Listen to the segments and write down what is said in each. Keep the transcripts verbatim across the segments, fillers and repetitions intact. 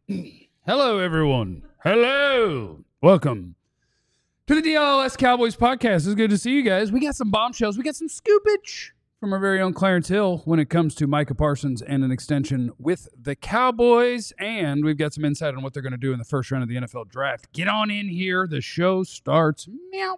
Hello, everyone. Hello. Welcome to the D L S Cowboys podcast. It's good to see you guys. We got some bombshells. We got some scoopage from our very own Clarence Hill when it comes to Micah Parsons and an extension with the Cowboys. And we've got some insight on what they're going to do in the first round of the N F L draft. Get on in here. The show starts. Meow.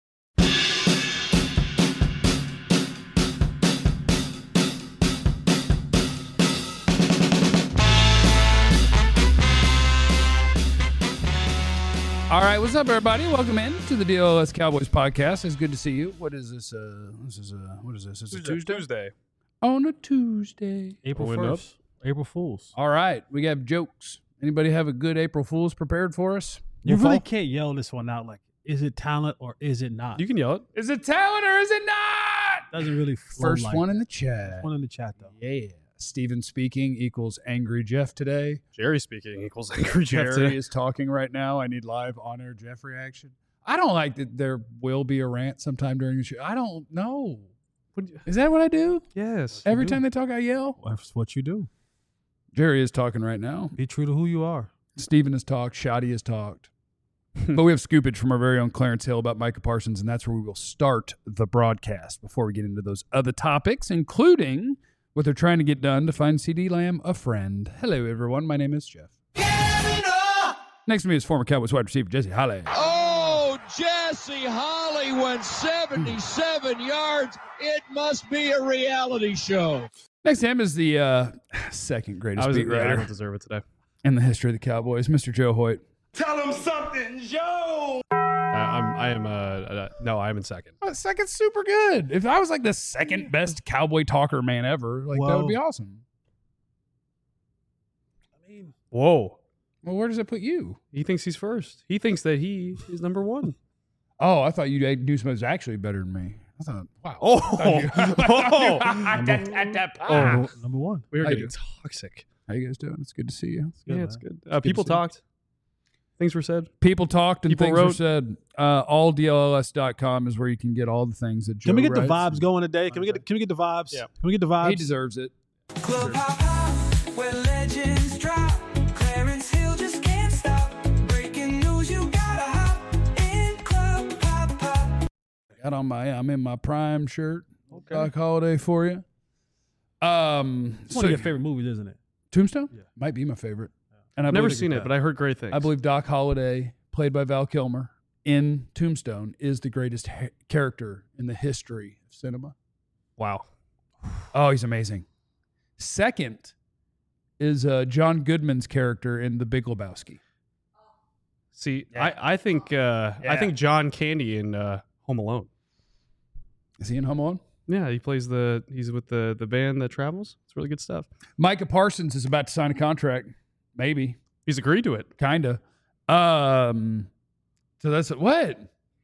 All right, what's up, everybody? Welcome in to the D L S Cowboys podcast. It's good to see you. What is this? Uh, this is uh, what is this? It's a Tuesday. Tuesday. On a Tuesday. April Pulling up. first. April Fools. All right, we got jokes. Anybody have a good April Fool's prepared for us? You Wolfall? really can't yell this one out like, is it talent or is it not? You can yell it. Is it talent or is it not? Doesn't really flow First like one that. in the chat. First one in the chat, though. Yeah. Steven speaking equals angry Jeff today. Jerry speaking equals angry Jeff Jerry today. is talking right now. I need live on-air Jeff reaction. I don't like that there will be a rant sometime during the show. I don't know. Is that what I do? Yes. Every do. time they talk, I yell? That's what you do. Jerry is talking right now. Be true to who you are. Steven has talked. Shoddy has talked. But we have scoopage from our very own Clarence Hill about Micah Parsons, and that's where we will start the broadcast before we get into those other topics, including what they're trying to get done to find CeeDee Lamb a friend. Hello, everyone. My name is Jeff. Next to me is former Cowboys wide receiver Jesse Holly. Oh, Jesse Holly went seventy-seven yards. It must be a reality show. Next to him is the uh, second greatest I was beat yeah, I writer don't deserve it today. in the history of the Cowboys, Mister Joe Hoyt. Tell him something, Joe. Uh, I'm. I am. Uh, uh, no, I'm in second. Oh, second's super good. If I was like the second best Cowboy talker man ever, like that would be Whoa. awesome. I mean, Whoa. Well, where does that put you? He thinks he's first. He thinks that he is number one. Oh, I thought you'd do something that's actually better than me. I thought, wow. Oh. oh. oh, number one. We are How you getting doing? toxic. How you guys doing? It's good to see you. Yeah, man. it's good. Uh, good people to see you. talked. Things were said. People talked and People things were wrote. said. Uh, all D L S dot com is where you can get all the things that Joe Can we get the writes. vibes going today? Can we get Can we get the vibes? Yeah. Can we get the vibes? He deserves it. Club hop hop, where legends drop. Clarence Hill just can't stop. Breaking news, you gotta hop in Club hop hop. Got on my I'm in my prime shirt. Okay. Doc Holiday for you. Um, It's one of your favorite movies, isn't it? Tombstone Yeah. might be my favorite. And I I've never believe- seen it, but I heard great things. I believe Doc Holliday, played by Val Kilmer in Tombstone, is the greatest ha- character in the history of cinema. Wow. Oh, he's amazing. Second is uh, John Goodman's character in The Big Lebowski. See, Yeah. I, I think uh, I Yeah. think John Candy in uh, Home Alone. Is he in Home Alone? Yeah, he plays the. He's with the the band that travels. It's really good stuff. Micah Parsons is about to sign a contract. Maybe. He's agreed to it. Kinda. Um, so that's what?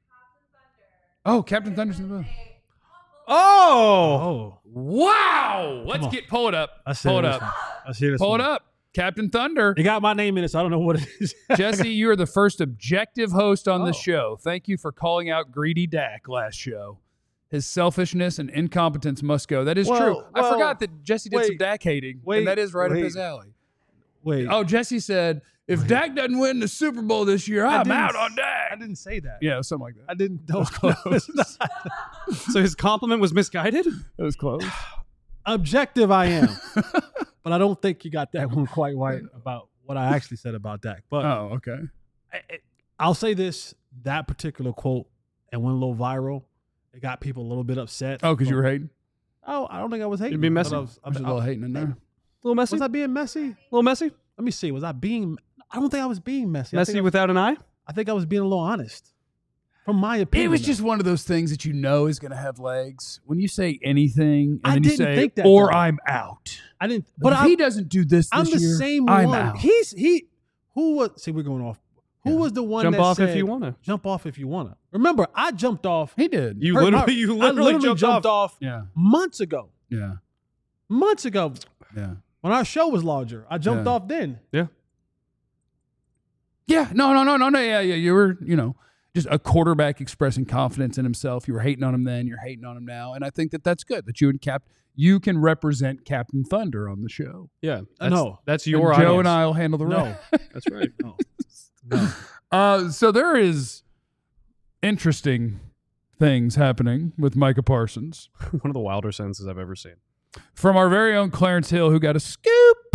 Oh, Captain Thunder's in the book. Oh, Oh, Wow! Let's on. get pull it up. I see Pull it this up. one. I see this Pull one. it up. Captain Thunder. It got my name in it, so I don't know what it is. Jesse, you are the first objective host on Oh. the show. Thank you for calling out Greedy Dak last show. His selfishness and incompetence must go. That is Well, true. I well, forgot that Jesse did some wait, Dak hating, wait, and that is right wait. up his alley. Wait. Oh, Jesse said, if Dak doesn't win the Super Bowl this year, I I'm didn't out s- on Dak. I didn't say that. Yeah, something like that. I didn't. That was was close. close. so his compliment was misguided. It was close. Objective, I am, but I don't think you got that one quite right about what I actually said about Dak. But Oh, okay. I- I- I'll say this: that particular quote and went a little viral. It got people a little bit upset. Oh, because you were hating? Oh, I don't think I was hating. You'd be but messy. I was, I There's was, a little hating in there. A little messy. was I being messy? A little messy. Let me see. Was I being? I don't think I was being messy. I Messy think I, without an eye. I think I was being a little honest. From my opinion, It was though. just one of those things that you know is going to have legs. When you say anything, and I then you didn't say, think that, or though. I'm out. I didn't. But But if I, he doesn't do this I'm this the year, same I'm one. out. He's he. Who was? See, we're going off. Who Yeah. was the one Jump that off if said, you wanna. Jump off if you wanna. Remember, I jumped off. He did. You Her- literally, I- you I literally, jumped, jumped off. off yeah, months ago. yeah, Months ago, yeah. when our show was larger, I jumped Yeah. off then. Yeah. Yeah, no, no, no, no, no. Yeah, yeah. You were, you know, just a quarterback expressing confidence in himself. You were hating on him then, you're hating on him now, and I think that that's good that you and Cap you can represent Captain Thunder on the show. Yeah, Uh, that's, no. that's And your Joe audience. and I'll handle the No. rest. That's right. No. No. Uh, so there is interesting things happening with Micah Parsons One of the wilder sentences I've ever seen. from our very own Clarence Hill, who got a scoop.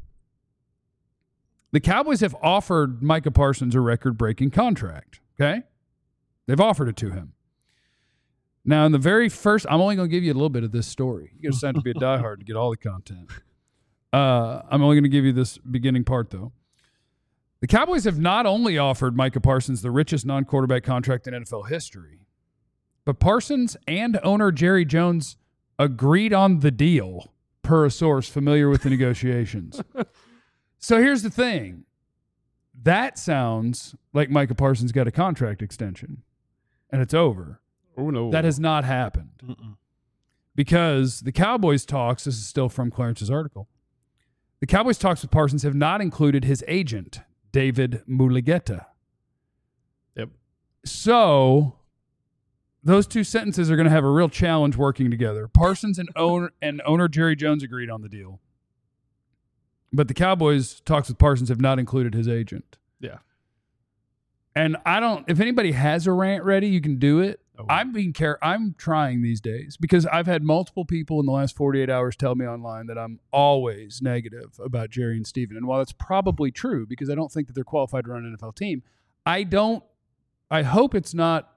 The Cowboys have offered Micah Parsons a record-breaking contract. Okay, they've offered it to him. Now, in the very first, I'm only going to give you a little bit of this story. You got to sign up to be a diehard to get all the content. Uh, I'm only going to give you this beginning part, though. The Cowboys have not only offered Micah Parsons the richest non-quarterback contract in N F L history, but Parsons and owner Jerry Jones agreed on the deal, per a source familiar with the negotiations. So here's the thing. That sounds like Micah Parsons got a contract extension, and it's over. Oh, no. That has not happened. Mm-mm. Because the Cowboys talks, this is still from Clarence's article, the Cowboys talks with Parsons have not included his agent, David Mulugheta. Yep. So those two sentences are going to have a real challenge working together. Parsons and owner and owner Jerry Jones agreed on the deal. But the Cowboys talks with Parsons have not included his agent. Yeah. And I don't, if anybody has a rant ready, you can do it. Oh. I'm being care. I'm trying these days because I've had multiple people in the last forty-eight hours tell me online that I'm always negative about Jerry and Steven. And while that's probably true because I don't think that they're qualified to run an N F L team, I don't, I hope it's not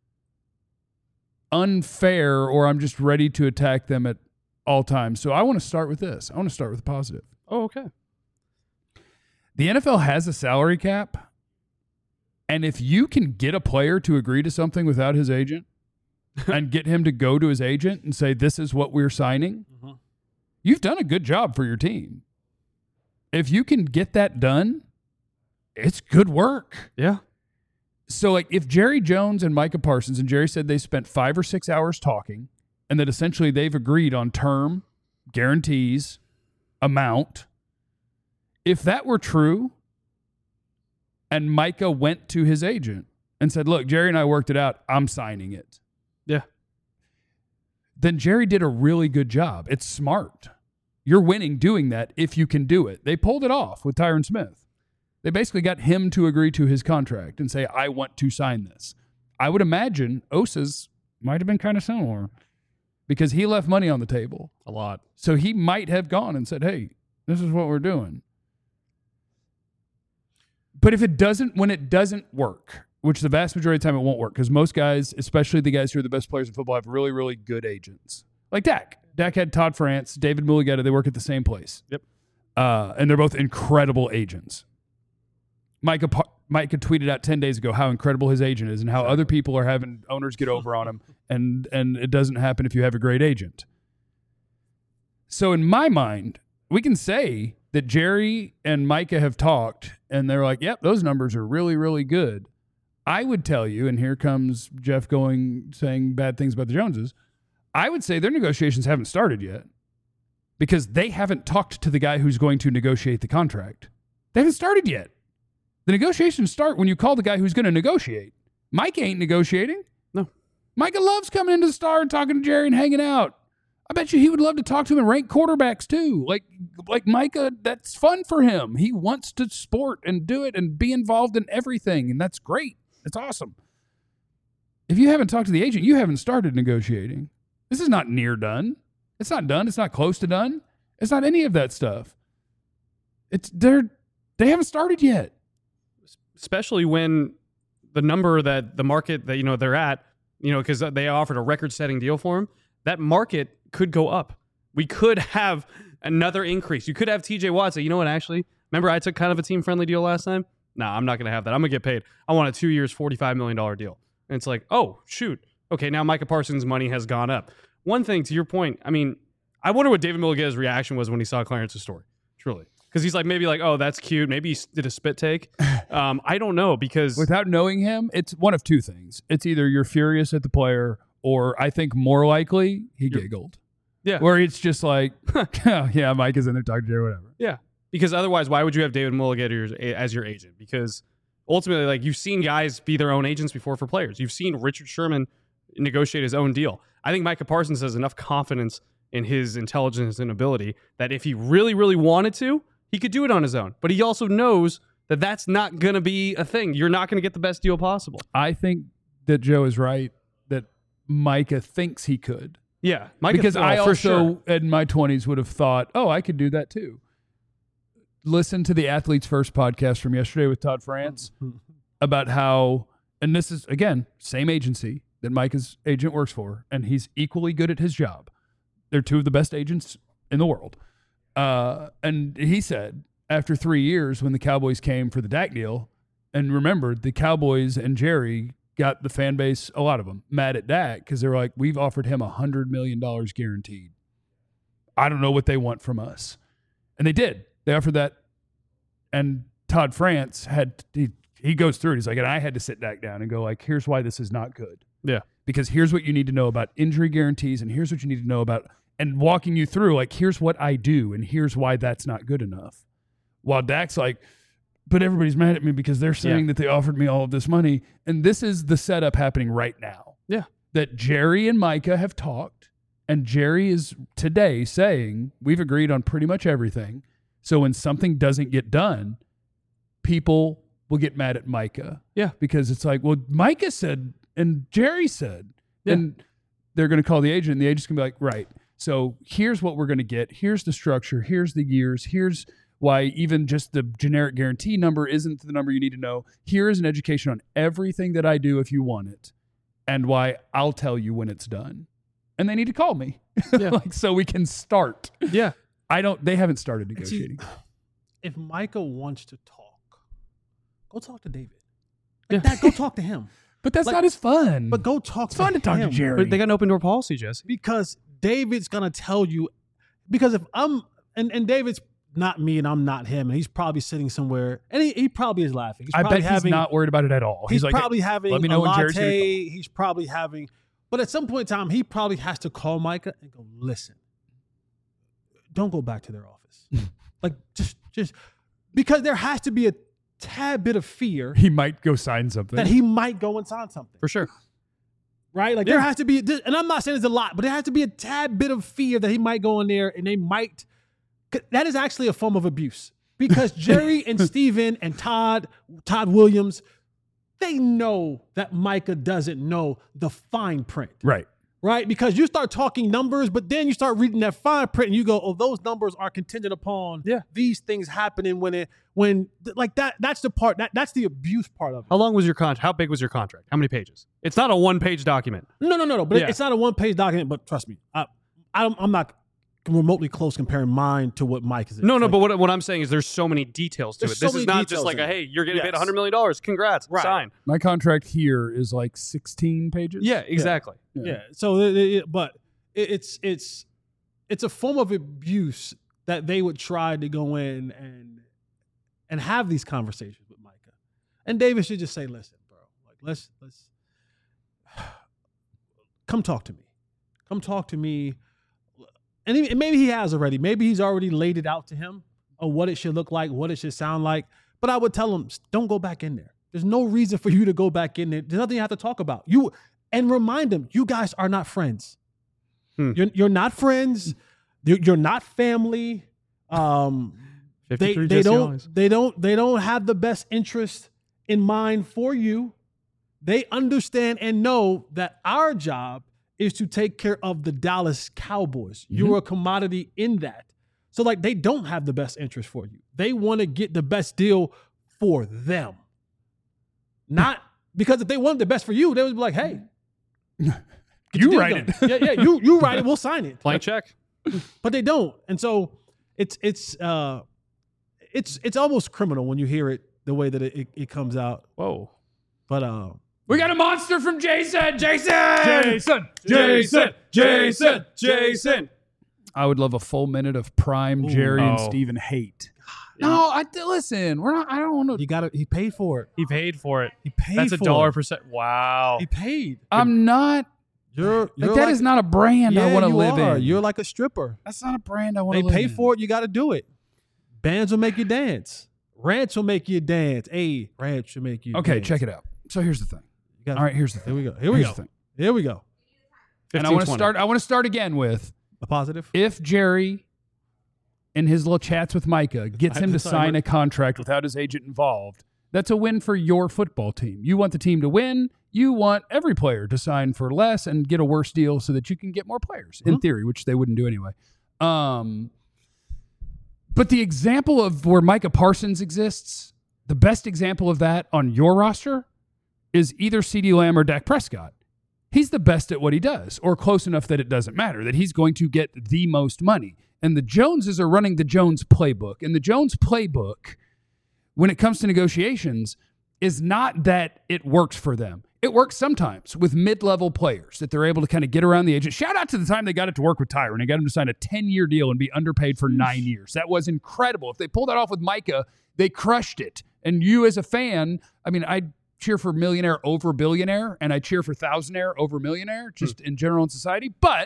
unfair or I'm just ready to attack them at all times. So I want to start with this. I want to start with the positive. Oh, okay. The N F L has a salary cap. And if you can get a player to agree to something without his agent and get him to go to his agent and say, this is what we're signing, Mhm. you've done a good job for your team. If you can get that done, it's good work. Yeah. So, like, if Jerry Jones and Micah Parsons, and Jerry said they spent five or six hours talking and that essentially they've agreed on term, guarantees, amount, if that were true, and Micah went to his agent and said, look, Jerry and I worked it out. I'm signing it. Yeah. Then Jerry did a really good job. It's smart. You're winning doing that if you can do it. They pulled it off with Tyron Smith. They basically got him to agree to his contract and say, I want to sign this. I would imagine Osa's might have been kind of similar because he left money on the table. A lot. So he might have gone and said, hey, this is what we're doing. But if it doesn't, when it doesn't work, which the vast majority of the time it won't work, because most guys, especially the guys who are the best players in football, have really, really good agents. Like Dak. Dak had Todd France, David Mulugheta. They work at the same place. Yep. Uh, and they're both incredible agents. Micah, Pa- Micah tweeted out ten days ago how incredible his agent is and how other people are having owners get over on him, and and it doesn't happen if you have a great agent. So in my mind, we can say that Jerry and Micah have talked, and they're like, yep, those numbers are really, really good. I would tell you, and here comes Jeff going, saying bad things about the Joneses, I would say their negotiations haven't started yet because they haven't talked to the guy who's going to negotiate the contract. They haven't started yet. The negotiations start when you call the guy who's going to negotiate. Micah ain't negotiating. No. Micah loves coming into the Star and talking to Jerry and hanging out. I bet you he would love to talk to him and rank quarterbacks too. Like, like Micah, that's fun for him. He wants to sport and do it and be involved in everything, and that's great. It's awesome. If you haven't talked to the agent, you haven't started negotiating. This is not near done. It's not done. It's not close to done. It's not any of that stuff. It's they're they haven't started yet. Especially when the number that the market that, you know, they're at, you know, because they offered a record-setting deal for him, that market could go up. We could have another increase. You could have T J Watt say, you know what, actually, remember I took kind of a team-friendly deal last time? Nah, I'm not going to have that. I'm going to get paid. I want a two years, forty-five million dollars deal. And it's like, oh, shoot. Okay, now Micah Parsons' money has gone up. One thing, to your point, I mean, I wonder what David Mulugheta's reaction was when he saw Clarence's story, truly. Because he's like, maybe like, oh, that's cute. Maybe he did a spit take. Um, I don't know, because... Without knowing him, it's one of two things. It's either you're furious at the player, or I think more likely he You're- giggled. Yeah. Where it's just like, yeah, Mike is in there talking to Jerry, whatever. Yeah, because otherwise, why would you have David Mulugheta as your agent? Because ultimately, like you've seen guys be their own agents before for players. You've seen Richard Sherman negotiate his own deal. I think Micah Parsons has enough confidence in his intelligence and ability that if he really, really wanted to, he could do it on his own. But he also knows that that's not going to be a thing. You're not going to get the best deal possible. I think that Joe is right that Micah thinks he could. Yeah, Micah, because oh, I for also, sure. in my twenties, would have thought, oh, I could do that too. Listen to the Athletes First podcast from yesterday with Todd France about how, and this is, again, same agency that Micah's agent works for, and he's equally good at his job. They're two of the best agents in the world. Uh, and he said, after three years, when the Cowboys came for the Dak deal, and remember, the Cowboys and Jerry got the fan base, a lot of them, mad at Dak because they were like, we've offered him one hundred million dollars guaranteed. I don't know what they want from us. And they did. They offered that. And Todd France had, he, he goes through it. He's like, and I had to sit Dak down and go like, here's why this is not good. Yeah. Because here's what you need to know about injury guarantees, and here's what you need to know about, and walking you through, like, here's what I do, and here's why that's not good enough. While Dak's like, but everybody's mad at me because they're saying Yeah. that they offered me all of this money. And this is the setup happening right now. Yeah. That Jerry and Micah have talked, and Jerry is today saying, we've agreed on pretty much everything. So when something doesn't get done, people will get mad at Micah. Yeah. Because it's like, well, Micah said, and Jerry said, Yeah. and they're going to call the agent, and the agent's going to be like, right, so here's what we're going to get. Here's the structure. Here's the years. Here's why even just the generic guarantee number isn't the number you need to know. Here is an education on everything that I do if you want it, and why I'll tell you when it's done. And they need to call me, Yeah. like so we can start. Yeah. I don't. They haven't started See, negotiating. if Micah wants to talk, go talk to David. Yeah. Like that, go talk to him. But that's like- not as fun. But go talk it's to fun to talk to him. Jerry. But they got an open door policy, Jesse. Because David's gonna tell you. Because if I'm and, and David's not me and I'm not him, and he's probably sitting somewhere, and he, he probably is laughing. He's I probably bet he's having, not worried about it at all. He's, He's, like, probably having let me know a when latte. Jerry's gonna call. He's probably having, but at some point in time, he probably has to call Micah and go, listen, don't go back to their office. like just just because there has to be a tad bit of fear he might go sign something. that he might go and sign something. For sure. Right? Like there has to be, and I'm not saying it's a lot, but there has to be a tad bit of fear that he might go in there and they might. That is actually a form of abuse because Jerry and Steven and Todd, Todd Williams, they know that Micah doesn't know the fine print. right. Right? Because you start talking numbers, but then you start reading that fine print and you go, oh, those numbers are contingent upon Yeah. these things happening when it, when, like that, that's the part, that that's the abuse part of it. How long was your contract? How big was your contract? How many pages? It's not a one-page document. No, no, no, no. But Yeah. it's not a one-page document. But trust me, I, I'm, I'm not remotely close comparing mine to what Mike is. No, no, Like, but what, what I'm saying is there's so many details to There's it. so This many is not just details like in a, it. hey, you're getting Yes. paid one hundred million dollars. Congrats. Right. Sign. My contract here is like sixteen pages. Yeah, exactly. yeah. So, it, it- but it, it's it's it's a form of abuse that they would try to go in and and have these conversations with Micah, and David should just say, "Listen, bro, like let's let's come talk to me, come talk to me." And, he, and maybe he has already. Maybe he's already laid it out to him of what it should look like, what it should sound like. But I would tell him, don't go back in there. There's no reason for you to go back in there. There's nothing you have to talk about. You and remind him, you guys are not friends. Hmm. You're you're not friends. You're, you're not family. Um, they fifty-three they Jesse don't Owens. they don't they don't have the best interest in mind for you. They understand and know that our job is to take care of the Dallas Cowboys. You're a commodity in that. So like they don't have the best interest for you. They want to get the best deal for them. Not because if they wanted the best for you, they would be like, hey, get your You deal write done. it. yeah, yeah, you you write it, we'll sign it. Blank check. But they don't. And so it's it's uh it's it's almost criminal when you hear it the way that it, it, it comes out. Whoa. But uh We got a monster from Jason. Jason. Jason, Jason, Jason, Jason. I would love a full minute of prime Jerry and Oh. Steven hate. No, I listen. We're not. I don't want to. he got it, he paid for it. He paid for it. He paid That's a for dollar it. percent. Wow. He paid. I'm not. You're, you're Like, that is not a brand yeah, I want to you live are. in. You're like a stripper. That's not a brand I want They to live pay in. for it, you got to do it. Bands will make you dance. Ranch will make you dance. Hey, ranch will make you Okay, dance. check it out. So here's the thing. You got- All right, here's the thing. Here we go. Here we Here's go. the thing. Here we go. And I want to start. I want to start again with A positive. if Jerry, in his little chats with Micah, gets him to Sorry, sign Mike. a contract without his agent involved. That's a win for your football team. You want the team to win. You want every player to sign for less and get a worse deal so that you can get more players, in Mhm. theory, which they wouldn't do anyway. Um, but the example of where Micah Parsons exists, the best example of that on your roster is either CeeDee Lamb or Dak Prescott. He's the best at what he does, or close enough that it doesn't matter, that he's going to get the most money. And the Joneses are running the Jones playbook. And the Jones playbook, when it comes to negotiations, is not that it works for them. It works sometimes with mid-level players that they're able to kind of get around the agent. Shout out to the time they got it to work with Tyron. They got him to sign a ten-year deal and be underpaid for nine years. That was incredible. If they pulled that off with Micah, they crushed it. And you as a fan, I mean, I cheer for millionaire over billionaire, and I cheer for thousandaire over millionaire, just in general in society. But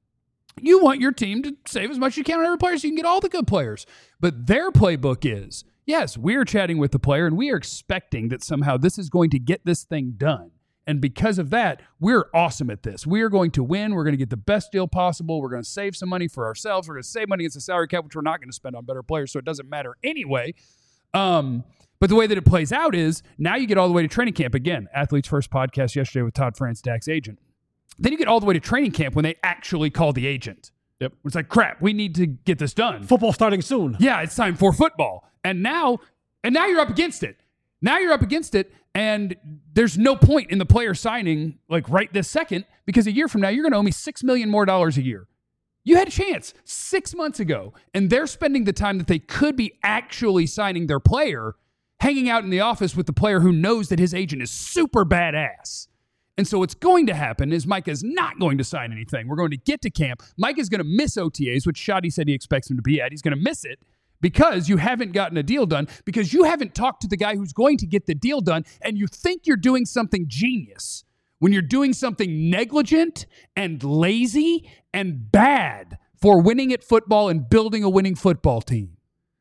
you want your team to save as much as you can on every player so you can get all the good players. But their playbook is, yes, we're chatting with the player, and we are expecting that somehow this is going to get this thing done. And because of that, we're awesome at this. We are going to win. We're going to get the best deal possible. We're going to save some money for ourselves. We're going to save money against the salary cap, which we're not going to spend on better players, so it doesn't matter anyway. Um, but the way that it plays out is now you get all the way to training camp. Again, Athletes First podcast yesterday with Todd France, Dak's agent. Then you get all the way to training camp when they actually call the agent. Yep. It's like, crap, we need to get this done. Football starting soon. Yeah, it's time for football. And now, and now you're up against it. Now you're up against it, and there's no point in the player signing like right this second, because a year from now you're going to owe me six million more dollars a year. You had a chance six months ago, and they're spending the time that they could be actually signing their player, hanging out in the office with the player who knows that his agent is super badass. And so what's going to happen is Micah's not going to sign anything. We're going to get to camp. Micah's going to miss O T As, which Shadi said he expects him to be at. He's going to miss it because you haven't gotten a deal done, because you haven't talked to the guy who's going to get the deal done, and you think you're doing something genius when you're doing something negligent and lazy and bad for winning at football and building a winning football team.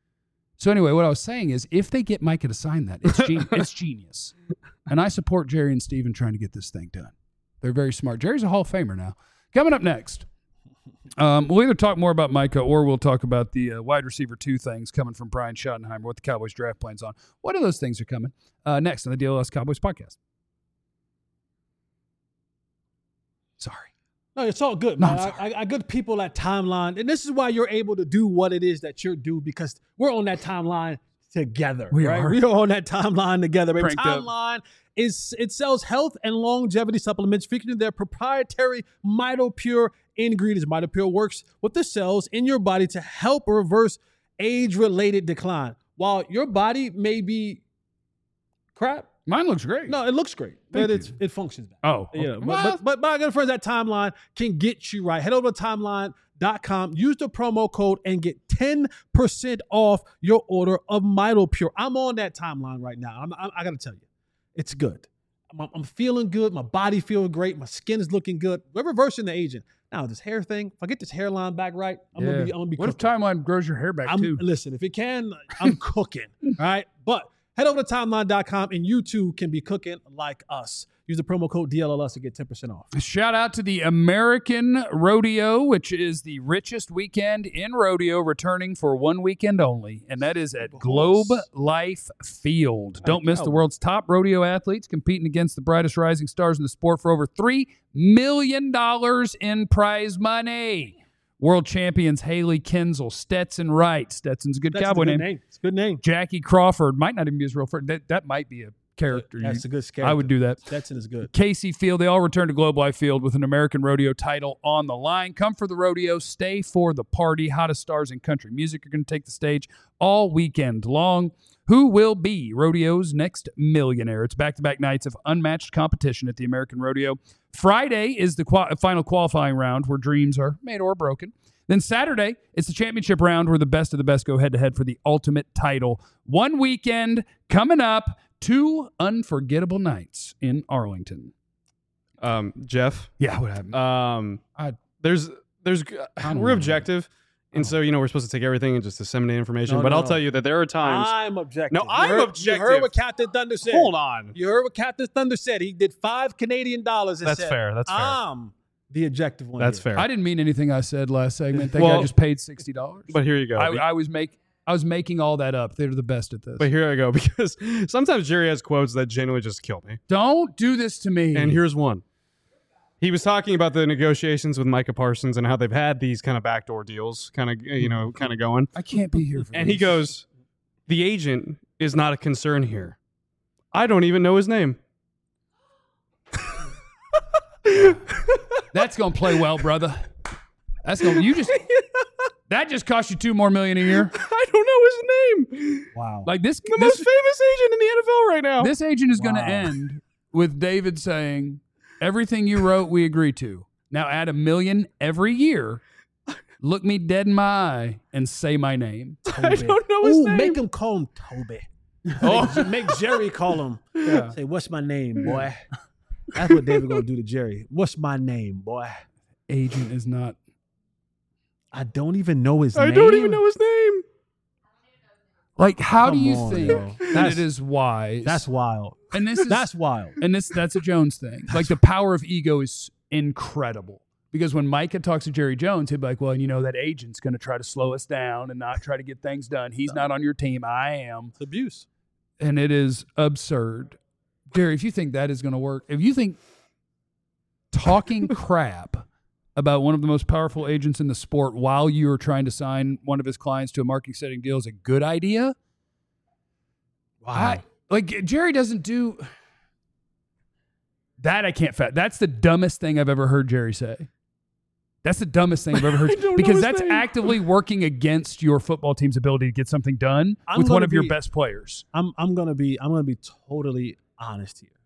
So anyway, what I was saying is, if they get Micah to sign that, it's, gen- it's genius. And I support Jerry and Steven trying to get this thing done. They're very smart. Jerry's a Hall of Famer now. Coming up next, um, we'll either talk more about Micah or we'll talk about the uh, wide receiver two things coming from Brian Schottenheimer, what the Cowboys draft plans on. What of those things are coming uh, next on the D L S Cowboys podcast? Sorry. No, it's all good, No, man. I'm I, I, I good people at Timeline, and this is why you're able to do what it is that you're do, because we're on that timeline together. We right? are. We are on that timeline together. Baby. Pranked up. Timeline is it sells health and longevity supplements featuring their proprietary MitoPure ingredients. MitoPure works with the cells in your body to help reverse age-related decline. While your body may be crap, Mine looks great. no, it looks great, Thank but it's you. it functions bad. Oh, Yeah, okay. but, Well, but, but my good friends at Timeline can get you right. Head over to timeline dot com, use the promo code, and get ten percent off your order of MitoPure. I'm on that Timeline right now. I'm, I'm, I got to tell you, it's good. I'm, I'm feeling good. My body feels great. My skin is looking good. We're reversing the aging. Now, this hair thing, if I get this hairline back right, I'm yeah. going to be I'm gonna be What if cooking. Timeline grows your hair back I'm, too? Listen, if it can, I'm cooking. All right. But head over to timeline dot com and you too can be cooking like us. Use the promo code D L L S to get ten percent off. Shout out to the American Rodeo, which is the richest weekend in rodeo, returning for one weekend only, and that is at Globe Life Field. Don't miss the world's top rodeo athletes competing against the brightest rising stars in the sport for over three million dollars in prize money. World champions Haley Kinzel, Stetson Wright. Stetson's a good That's cowboy a good name. name. It's a good name. Jackie Crawford might not even be his real first. That, that might be a character. That's You- a good scare. I would do that. Stetson is good. Casey Field, they all return to Globe Life Field with an American Rodeo title on the line. Come for the rodeo, stay for the party. Hottest stars in country music are going to take the stage all weekend long. Who will be Rodeo's next millionaire? It's back-to-back nights of unmatched competition at the American Rodeo. Friday is the qual- final qualifying round where dreams are made or broken. Then Saturday, it's the championship round where the best of the best go head-to-head for the ultimate title. One weekend coming up, two unforgettable nights in Arlington. Um, Jeff, Yeah, what happened? um, I- there's there's don't we're know. objective. And so, you know, we're supposed to take everything and just disseminate information. No, but no, I'll no. tell you that there are times. I'm objective. No, You I'm heard- objective. You heard what Captain Thunder said. Hold on. You heard what Captain Thunder said. He did five Canadian dollars. And That's said, fair. That's fair. I'm the objective one. That's here. fair. I didn't mean anything I said last segment. That Well- guy just paid sixty dollars. But here you go. I, I was make I was making all that up. They're the best at this. But here I go, because sometimes Jerry has quotes that genuinely just kill me. Don't do this to me. And here's one. He was talking about the negotiations with Micah Parsons and how they've had these kind of backdoor deals kind of, you know, kind of going. I can't be here for And this. he goes, the agent is not a concern here. I don't even know his name. That's gonna play well, brother. That's gonna you just that just cost you two more million a year. I don't know his name. Wow. Like this, The this, most famous agent in the N F L right now. this agent is gonna Wow. end with David saying, "Everything you wrote, we agree to. Now add a million every year. Look me dead in my eye and say my name." I don't know his Ooh, name. make him call him Toby. Oh. make, make Jerry call him. Yeah. Say, what's my name, boy? That's what David gonna do to Jerry. What's my name, boy? Agent is not. I don't even know his I name. don't even know his name. Like, how do Come you on, think yo. that That's- it is wise? That's wild. and this is That's wild. and this that's a Jones thing. Like the power of ego is incredible. Because when Micah talks to Jerry Jones, he'd be like, "Well, you know that agent's going to try to slow us down and not try to get things done. He's not on your team. I am." It's abuse. And it is absurd. Jerry, if you think that is going to work, if you think talking crap about one of the most powerful agents in the sport while you are trying to sign one of his clients to a marketing setting deal is a good idea, Wow. I, like Jerry doesn't do that. I can't fat. That's the dumbest thing I've ever heard Jerry say. That's the dumbest thing I've ever heard I don't know because his that's name. actively working against your football team's ability to get something done I'm with one gonna of your be- best players. I'm I'm gonna be I'm gonna be totally honest here.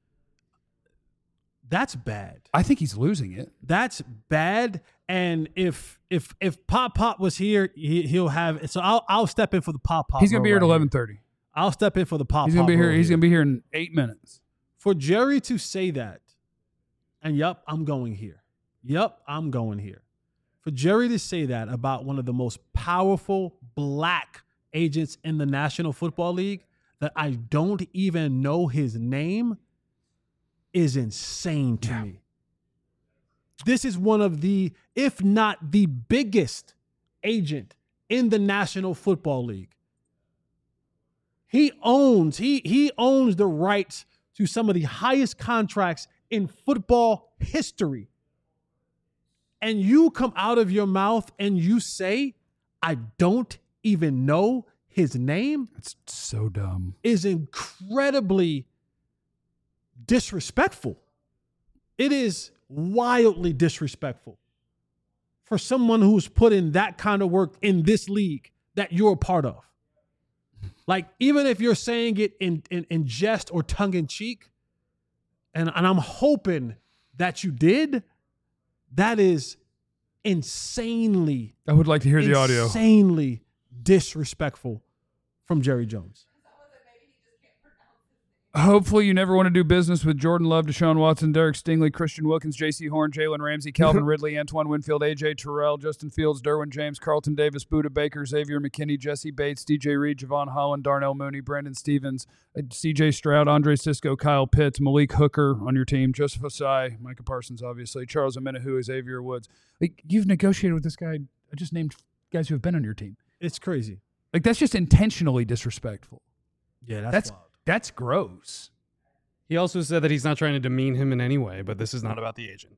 That's bad. I think he's losing it. That's bad. And if if if Pop Pop was here, he, he'll have. So I'll I'll step in for the Pop Pop. He's gonna be here at role right eleven thirty. I'll step in for the Pop. He's gonna Pop be here. role He's gonna be here in eight minutes. For Jerry to say that, and yup, I'm going here. Yup, I'm going here. For Jerry to say that about one of the most powerful black agents in the National Football League, that I don't even know his name, is insane to Yeah. me. This is one of the, if not the biggest agent in the National Football League. He owns, he he owns the rights to some of the highest contracts in football history. And you come out of your mouth and you say, I don't even know his name, It's so dumb. is incredibly disrespectful. It is wildly disrespectful for someone who's put in that kind of work in this league that you're a part of. Like, even if you're saying it in, in, in jest or tongue in cheek, and, and I'm hoping that you did, that is insanely, I would like to hear the audio. insanely disrespectful from Jerry Jones. Hopefully, you never want to do business with Jordan Love, Deshaun Watson, Derek Stingley, Christian Wilkins, J C Horn, Jalen Ramsey, Calvin Ridley, Antoine Winfield, A J Terrell, Justin Fields, Derwin James, Carlton Davis, Buda Baker, Xavier McKinney, Jesse Bates, D J Reed, Javon Holland, Darnell Mooney, Brandon Stevens, uh, C J Stroud, Andre Sisco, Kyle Pitts, Malik Hooker on your team, Joseph Osai, Micah Parsons, obviously, Charles Omenihu, Xavier Woods. Like, you've negotiated with this guy. I just named guys who have been on your team. It's crazy. Like, that's just intentionally disrespectful. Yeah, that's, That's wild. that's gross. He also said that he's not trying to demean him in any way, but this is not about the agent.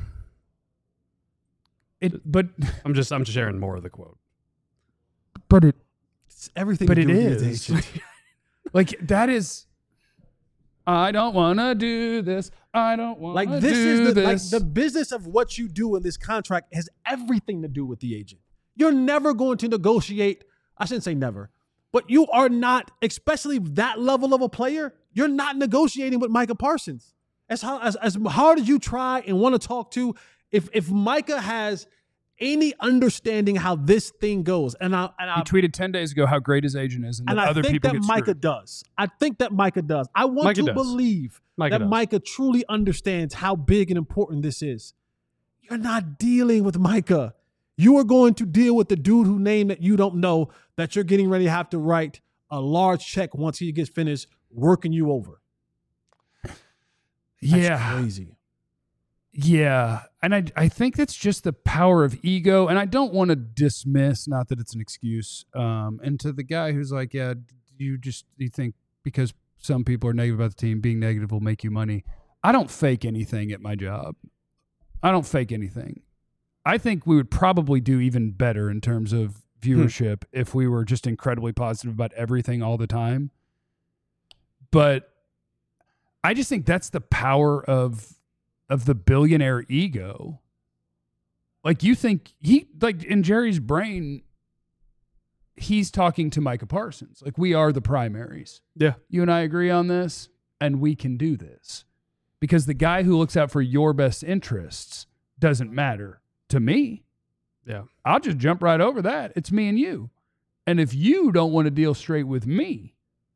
It, but I'm just I'm sharing more of the quote. but it It's everything but to it do with is the agent. like that is. I don't want to do this. I don't want Like to this do is the like this. the business of what you do in this contract has everything to do with the agent. You're never going to negotiate. I shouldn't say never, but you are not, especially that level of a player. You're not negotiating with Micah Parsons. As how, as as hard as you try and want to talk to, if if Micah has any understanding how this thing goes, and I and I he tweeted ten days ago how great his agent is, and, and that I other think people that get Micah screwed. does. I think that Micah does. I want Micah to does. believe Micah that does. Micah truly understands how big and important this is. You're not dealing with Micah. You are going to deal with the dude who name that you don't know that you're getting ready to have to write a large check once he gets finished working you over. That's yeah. crazy. Yeah. And I I think that's just the power of ego. And I don't want to dismiss, not that it's an excuse. Um, and to the guy who's like, yeah, you just you think because some people are negative about the team, being negative will make you money. I don't fake anything at my job. I don't fake anything. I think we would probably do even better in terms of viewership hmm. if we were just incredibly positive about everything all the time. But I just think that's the power of of the billionaire ego. Like you think he like in Jerry's brain, he's talking to Micah Parsons. Like we are the primaries. Yeah. You and I agree on this, and we can do this. Because the guy who looks out for your best interests doesn't matter to me. Yeah. I'll just jump right over that. It's me and you. And if you don't want to deal straight with me,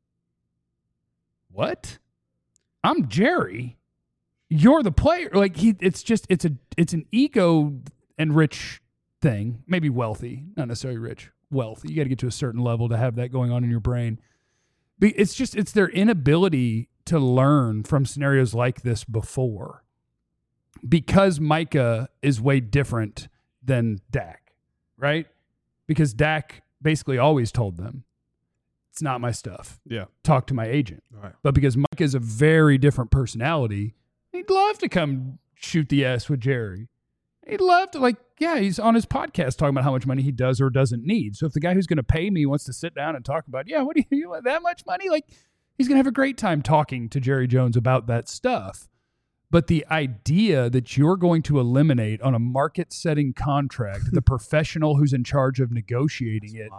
what? I'm Jerry. You're the player. Like he it's just it's a it's an ego and rich thing. Maybe wealthy, not necessarily rich. Wealthy. You got to get to a certain level to have that going on in your brain. But it's just it's their inability to learn from scenarios like this before. Because Micah is way different than Dak, right? Because Dak basically always told them, it's not my stuff. Yeah. Talk to my agent. Right. But because Micah is a very different personality, he'd love to come shoot the ass with Jerry. He'd love to, like, yeah, he's on his podcast talking about how much money he does or doesn't need. So if the guy who's going to pay me wants to sit down and talk about, yeah, what do you, you want that much money? Like, he's going to have a great time talking to Jerry Jones about that stuff. But the idea that you're going to eliminate on a market-setting contract the professional who's in charge of negotiating it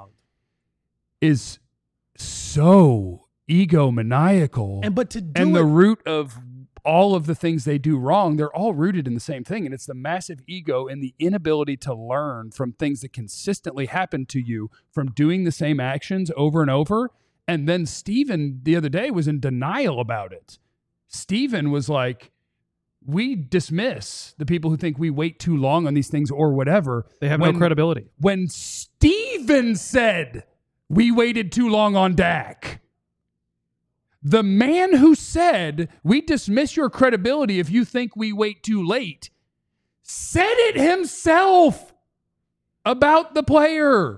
is so egomaniacal. And but to do and it, the root of all of the things they do wrong, they're all rooted in the same thing. And it's the massive ego and the inability to learn from things that consistently happen to you from doing the same actions over and over. And then Steven the other day was in denial about it. Steven was like, we dismiss the people who think we wait too long on these things or whatever. They have when, no credibility. When Steven said we waited too long on Dak, the man who said we dismiss your credibility if you think we wait too late said it himself about the player.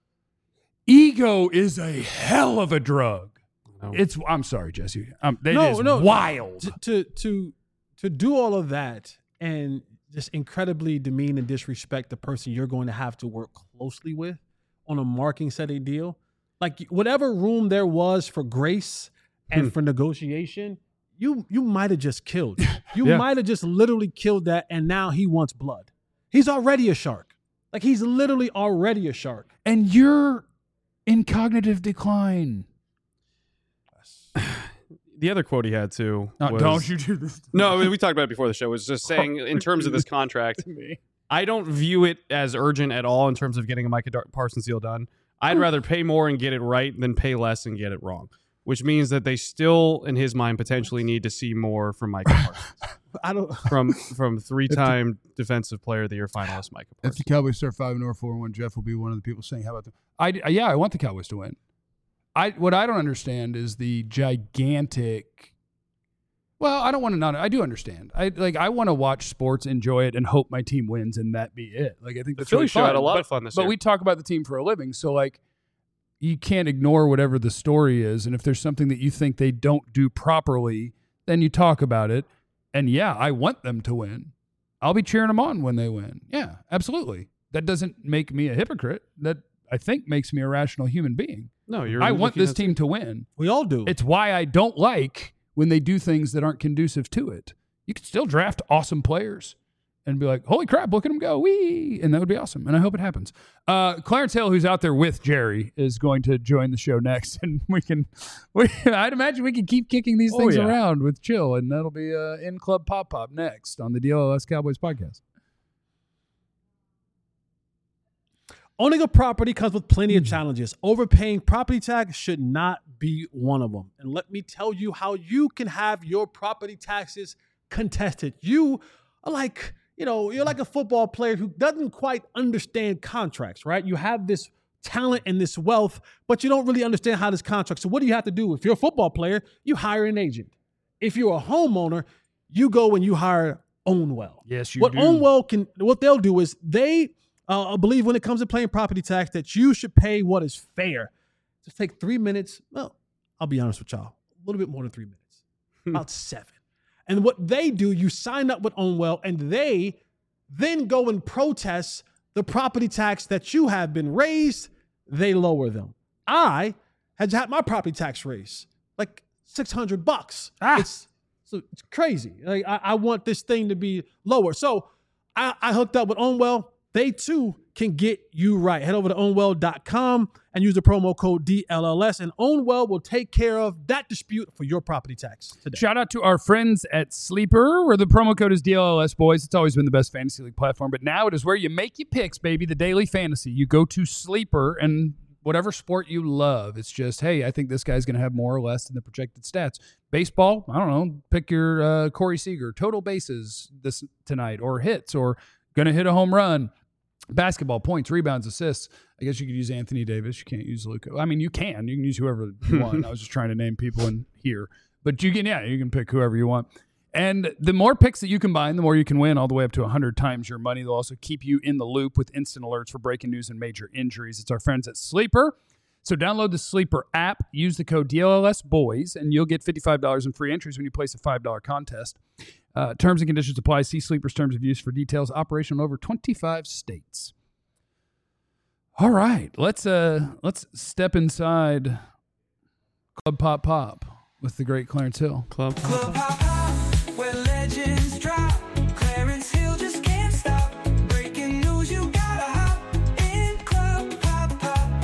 Ego is a hell of a drug. No. It's. I'm sorry, Jesse. Um, it no, is no. wild. To, to to to do all of that and just incredibly demean and disrespect the person you're going to have to work closely with on a marketing setting deal. Like whatever room there was for grace and hmm. for negotiation, you you might have just killed. You yeah. might have just literally killed that, and now he wants blood. He's already a shark. Like he's literally already a shark. And you're in cognitive decline. The other quote he had too. No, was, don't you do this. No, we talked about it before the show. Was just saying in terms of this contract, I don't view it as urgent at all in terms of getting a Micah Parsons deal done. I'd rather pay more and get it right than pay less and get it wrong, which means that they still, in his mind, potentially need to see more from Micah Parsons. I don't from from three-time the, Defensive Player of the Year finalist Micah Parsons. If the Cowboys start five and or four and one, Jeff will be one of the people saying, "How about them?" I yeah, I want the Cowboys to win. I what I don't understand is the gigantic. Well, I don't want to not. I do understand. I like. I want to watch sports, enjoy it, and hope my team wins, and that be it. Like I think the that's Philly really show fun. had a lot but, of fun this but year. But we talk about the team for a living, so like, you can't ignore whatever the story is, and if there's something that you think they don't do properly, then you talk about it. And yeah, I want them to win. I'll be cheering them on when they win. Yeah, absolutely. That doesn't make me a hypocrite. That I think makes me a rational human being. No, you're. I want this team to win. We all do. It's why I don't like when they do things that aren't conducive to it. You can still draft awesome players and be like, holy crap, look at them go. Wee! And that would be awesome. And I hope it happens. Uh, Clarence Hill, who's out there with Jerry, is going to join the show next. And we can, we, I'd imagine we can keep kicking these things oh, yeah. around with Chill. And that'll be uh, In Club Pop Pop next on the D L S Cowboys podcast. Owning a property comes with plenty of challenges. Overpaying property tax should not be one of them. And let me tell you how you can have your property taxes contested. You are like, you know, you're like a football player who doesn't quite understand contracts, right? You have this talent and this wealth, but you don't really understand how this contract. So what do you have to do? If you're a football player, you hire an agent. If you're a homeowner, you go and you hire Ownwell. Yes, you what do. What Ownwell can, what they'll do is they uh, believe when it comes to paying property tax that you should pay what is fair. Just take three minutes. Well, I'll be honest with y'all, a little bit more than three minutes, about seven. And what they do, you sign up with Ownwell, and they then go and protest the property tax that you have been raised. They lower them. I had had my property tax raised like six hundred bucks. Ah. It's so it's crazy. Like I, I want this thing to be lower. So I, I hooked up with Ownwell. They too can get you right. Head over to ownwell dot com and use the promo code D L L S, and Ownwell will take care of that dispute for your property tax today. Shout out to our friends at Sleeper, where the promo code is D L L S, boys. It's always been the best fantasy league platform, but now it is where you make your picks, baby, the daily fantasy. You go to Sleeper, and whatever sport you love, it's just, hey, I think this guy's going to have more or less than the projected stats. Baseball, I don't know, pick your uh, Corey Seager, total bases this tonight, or hits, or going to hit a home run. Basketball, points, rebounds, assists. I guess you could use Anthony Davis. You can't use Luka. I mean, you can. You can use whoever you want. I was just trying to name people in here. But you can, yeah, you can pick whoever you want. And the more picks that you combine, the more you can win, all the way up to one hundred times your money. They'll also keep you in the loop with instant alerts for breaking news and major injuries. It's our friends at Sleeper. So download the Sleeper app, use the code D L L S boys, and you'll get fifty-five dollars in free entries when you place a five dollar contest. Uh, terms and conditions apply. See Sleeper's terms of use for details. Operation in over twenty-five states. All right, let's uh let's step inside Club Pop Pop with the great Clarence Hill. Club. Club Pop Pop, where legends drop. Clarence Hill just can't stop. Breaking news, you gotta hop in Club Pop Pop.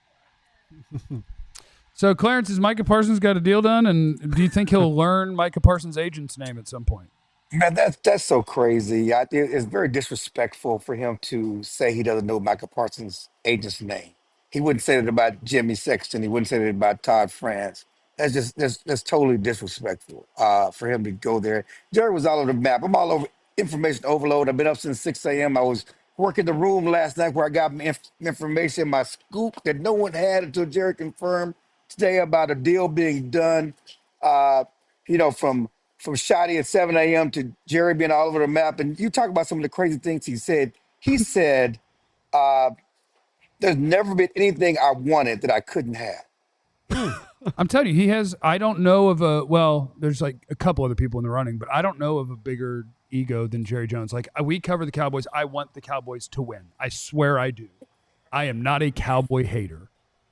So Clarence, has Micah Parsons got a deal done, and do you think he'll learn Micah Parsons' agent's name at some point? Man, that's that's so crazy. I, it- it's very disrespectful for him to say he doesn't know Michael Parsons' agent's name. He wouldn't say that about Jimmy Sexton. He wouldn't say that about Todd France. That's just that's that's totally disrespectful uh, for him to go there. Jerry was all over the map. I'm all over information overload. I've been up since six a m. I was working the room last night where I got my inf- information, my scoop that no one had until Jerry confirmed today about a deal being done. Uh, you know, from from Shotty at seven a m to Jerry being all over the map. And you talk about some of the crazy things he said. He said, uh, there's never been anything I wanted that I couldn't have. I'm telling you, he has. I don't know of a. Well, there's like a couple other people in the running, but I don't know of a bigger ego than Jerry Jones. Like uh, we cover the Cowboys. I want the Cowboys to win. I swear I do. I am not a Cowboy hater.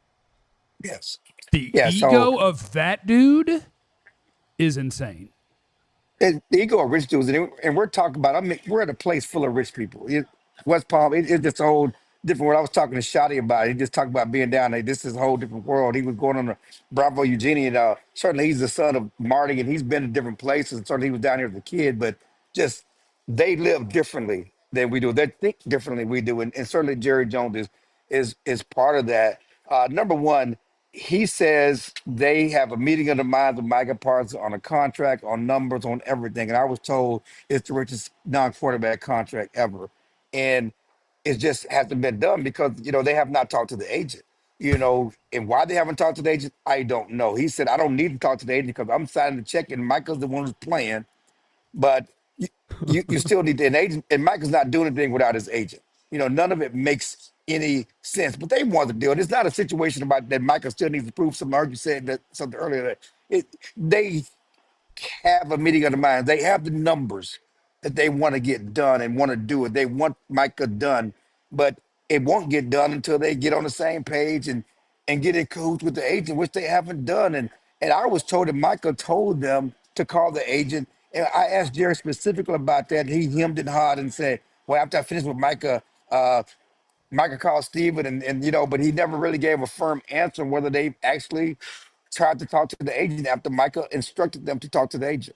Yes. The Yeah, ego so- of that dude is insane. And the ego of rich dudes, and, it- and we're talking about. I mean, we're at a place full of rich people. It, West Palm, it, it's just a whole different world. I was talking to Shotty about it. He just talked about being down there. This is a whole different world. He was going on the Bravo Eugenie, and uh, certainly he's the son of Marty, and he's been to different places. And certainly he was down here as a kid, but just they live differently than we do. They think differently than we do, and, and certainly Jerry Jones is is is part of that. Uh, number one, he says they have a meeting of the minds with Micah Parsons on a contract, on numbers, on everything. And I was told it's the richest non-quarterback contract ever. And it just hasn't been done because, you know, they have not talked to the agent. You know, and why they haven't talked to the agent, I don't know. He said, I don't need to talk to the agent because I'm signing the check and Micah's the one who's playing. But you, you, you still need an agent, and Micah's not doing anything without his agent. You know, none of it makes any sense. But they want to do it. It's not a situation about that Micah still needs to prove something. I heard you said that something earlier. That it, they have a meeting of the mind. They have the numbers that they want to get done and want to do it. They want Micah done, but it won't get done until they get on the same page and and get in cahoots with the agent, which they haven't done. And and I was told that Micah told them to call the agent. And I asked Jerry specifically about that. He hemmed and hawed and said, well, after I finished with Micah, uh, Micah called Steven and, and, you know, but he never really gave a firm answer on whether they actually tried to talk to the agent after Micah instructed them to talk to the agent.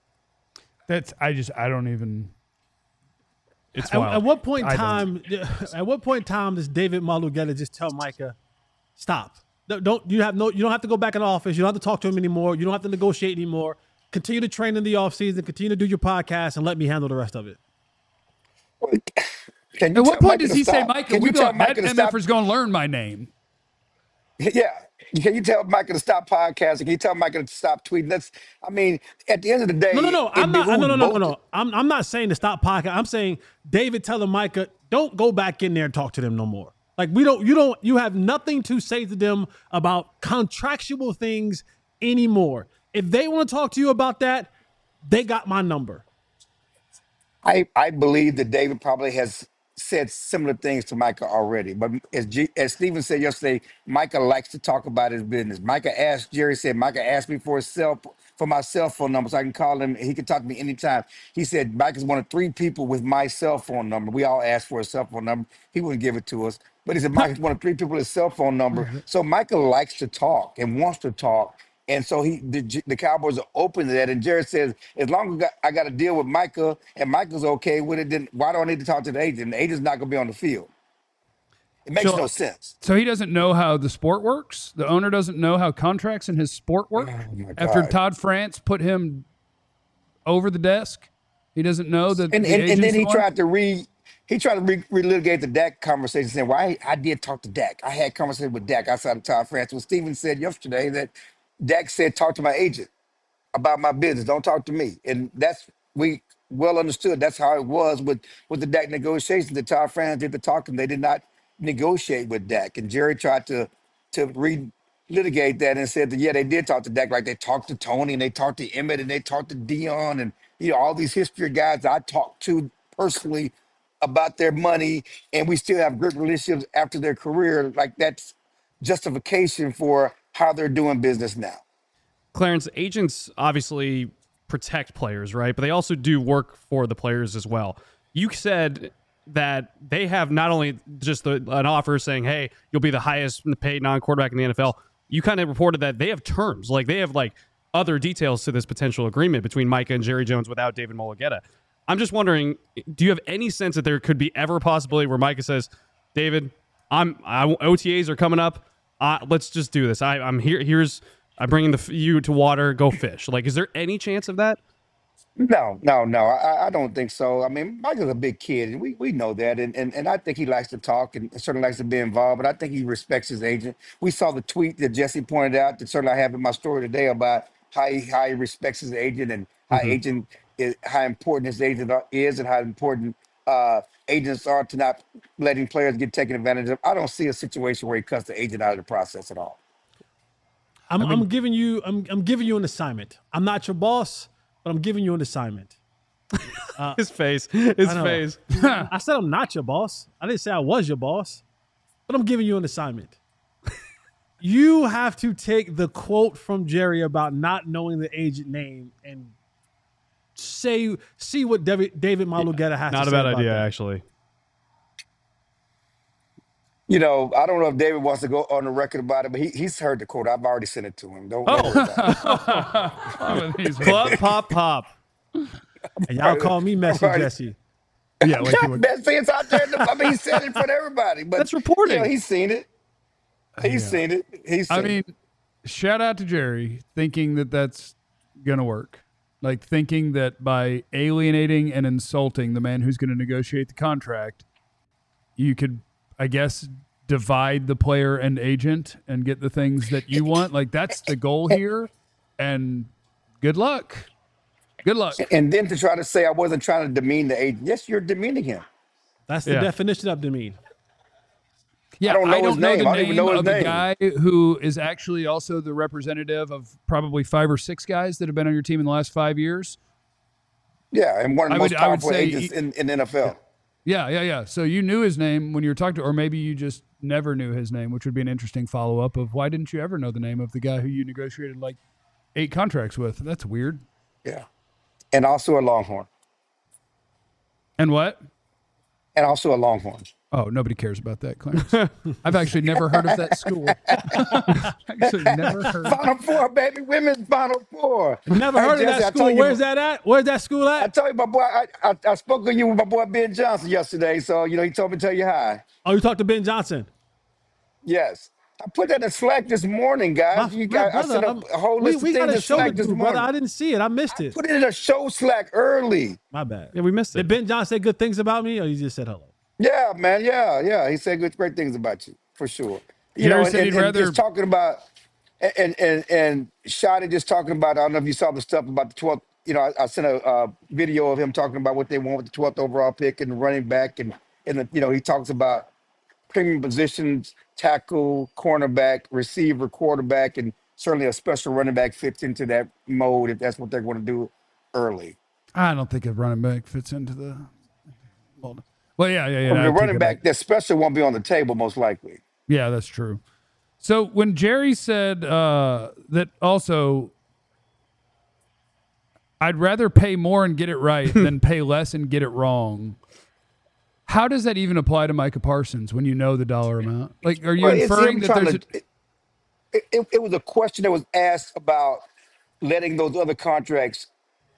That's. I just. I don't even. It's At, wild. at what point in I time? At what point in time does David Malugetta just tell Micah, "Stop"? Don't, don't you have no? You don't have to go back in the office. You don't have to talk to him anymore. You don't have to negotiate anymore. Continue to train in the offseason. Continue to do your podcast, and let me handle the rest of it. Can you At what tell point Micah does to he say, stop? Micah, Can we you tell go, that Micah to stop? MFer's going to learn my name? Yeah. Can you tell Micah to stop podcasting? Can you tell Micah to stop tweeting? That's, I mean, at the end of the No, no, day, no. it I'm not. No, behooves no, no, no, both. no. I'm, I'm not saying to stop podcast. I'm saying David telling Micah, don't go back in there and talk to them no more. Like we don't. You don't. You have nothing to say to them about contractual things anymore. If they want to talk to you about that, they got my number. I, I believe that David probably has said similar things to Micah already. But as G, as Stephen said yesterday, Micah likes to talk about his business. Micah asked, Jerry said, Micah asked me for his cell for my cell phone number so I can call him. He can talk to me anytime. He said Micah's one of three people with my cell phone number. We all asked for his cell phone number. He wouldn't give it to us. But he said Micah's one of three people with his cell phone number. So Micah likes to talk and wants to talk. And so he, the, J- the Cowboys are open to that. And Jared says, as long as I got, I got to deal with Micah and Micah's okay with it, then why do I need to talk to the agent? The agent's not going to be on the field. It makes So- no sense. So he doesn't know how the sport works? The owner doesn't know how contracts in his sport work? Oh, my After God. Todd France put him over the desk? He doesn't know that And, the and, and agent's then he the one? tried to re he tried to re- relitigate the Dak conversation, saying, "Well, I, I did talk to Dak. I had conversation with Dak outside of Todd France." Well, Steven said yesterday that Dak said, "Talk to my agent about my business. Don't talk to me." And that's we well understood. That's how it was with with the Dak negotiations. The Todd France did the talking. They did not negotiate with Dak. And Jerry tried to to re-litigate that and said that yeah, they did talk to Dak, like they talked to Tony and they talked to Emmett and they talked to Dion and you know all these history guys I talked to personally about their money, and we still have good relationships after their career. Like that's justification for how they're doing business now. Clarence, agents obviously protect players, right? But they also do work for the players as well. You said that they have not only just the, an offer saying, hey, you'll be the highest paid non-quarterback in the N F L. You kind of reported that they have terms. Like they have like other details to this potential agreement between Micah and Jerry Jones without David Mulugeta. I'm just wondering, do you have any sense that there could be ever a possibility where Micah says, David, I'm I, O T As are coming up. Uh, let's just do this. I, I'm here. Here's I'm bringing the you to water. Go fish. Like, is there any chance of that? No, no, no. I, I don't think so. I mean, Michael's a big kid, and we, we know that. And, and and I think he likes to talk and certainly likes to be involved. But I think he respects his agent. We saw the tweet that Jesse pointed out that certainly I have in my story today about how he how he respects his agent and how agent is how important his agent are- is and how important uh, agents are to not letting players get taken advantage of. I don't see a situation where he cuts the agent out of the process at all. I'm, I'm giving you. I'm, I'm giving you an assignment. I'm not your boss, but I'm giving you an assignment. His face. His I know. face. I said I'm not your boss. I didn't say I was your boss, but I'm giving you an assignment. You have to take the quote from Jerry about not knowing the agent name and say see what David, David Malugeta has Not to a say bad about idea, that. actually. You know, I don't know if David wants to go on the record about it, but he, he's heard the quote. I've already sent it to him. Don't, don't worry about it. He's- Pop, pop, pop. And y'all call me messy, Right. Jesse. yeah, like you were- Best things out there. in the- I mean, he said it for everybody. But That's reporting. You know, he's seen it. He's seen it. He's seen I mean, it. shout out to Jerry thinking that that's going to work. Like thinking that by alienating and insulting the man who's going to negotiate the contract, you could, I guess, divide the player and agent and get the things that you want. Like that's the goal here. And good luck. Good luck. And then to try to say I wasn't trying to demean the agent. Yes, you're demeaning him. That's the Yeah. definition of demean. Yeah, I don't know his the name. I don't even know his of the name. guy who is actually also the representative of probably five or six guys that have been on your team in the last five years. Yeah, and one of the I most would- I would powerful say agents he- in, in the N F L. Yeah, yeah, yeah. So you knew his name when you were talking to, or maybe you just never knew his name, which would be an interesting follow up of why didn't you ever know the name of the guy who you negotiated like eight contracts with? That's weird. Yeah. And also a Longhorn. And what? And also a Longhorn. Oh, nobody cares about that, Clarence. I've actually never heard of that school. actually never heard. Final Four, baby. Women's Final Four. Never Hey, heard of Jesse, I that told school. you- Where's that at? Where's that school I at? told you, my boy, I, I, I spoke to you with my boy Ben Johnson yesterday. So, you know, he told me to tell you hi. Oh, you talked to Ben Johnson. Yes. I put that in Slack this morning, My, guys. You my got, I brother, sent I'm- a, a whole we, list we of got things a in show to Slack this do, brother. morning. I didn't see it. I missed it. Put it in a show Slack early. My bad. Yeah, we missed Did it. Ben John say good things about me, or you just said hello? Yeah, man. Yeah, yeah. He said good, great things about you for sure. You Jerry know, and, said and, he'd and rather. just talking about and and and Shotty just talking about. I don't know if you saw the stuff about the twelfth. You know, I, I sent a uh, video of him talking about what they want with the twelfth overall pick and the running back, and and the, you know he talks about premium positions, tackle, cornerback, receiver, quarterback, and certainly a special running back fits into that mode if that's what they're going to do early. I don't think a running back fits into the mold. Well, yeah, yeah, yeah. From I the take running it back, that special won't be on the table most likely. Yeah, that's true. So when Jerry said uh, that also, I'd rather pay more and get it right than pay less and get it wrong. How does that even apply to Micah Parsons when you know the dollar amount? Like, are you Well, it's inferring him that trying there's to. It, it, it was a question that was asked about letting those other contracts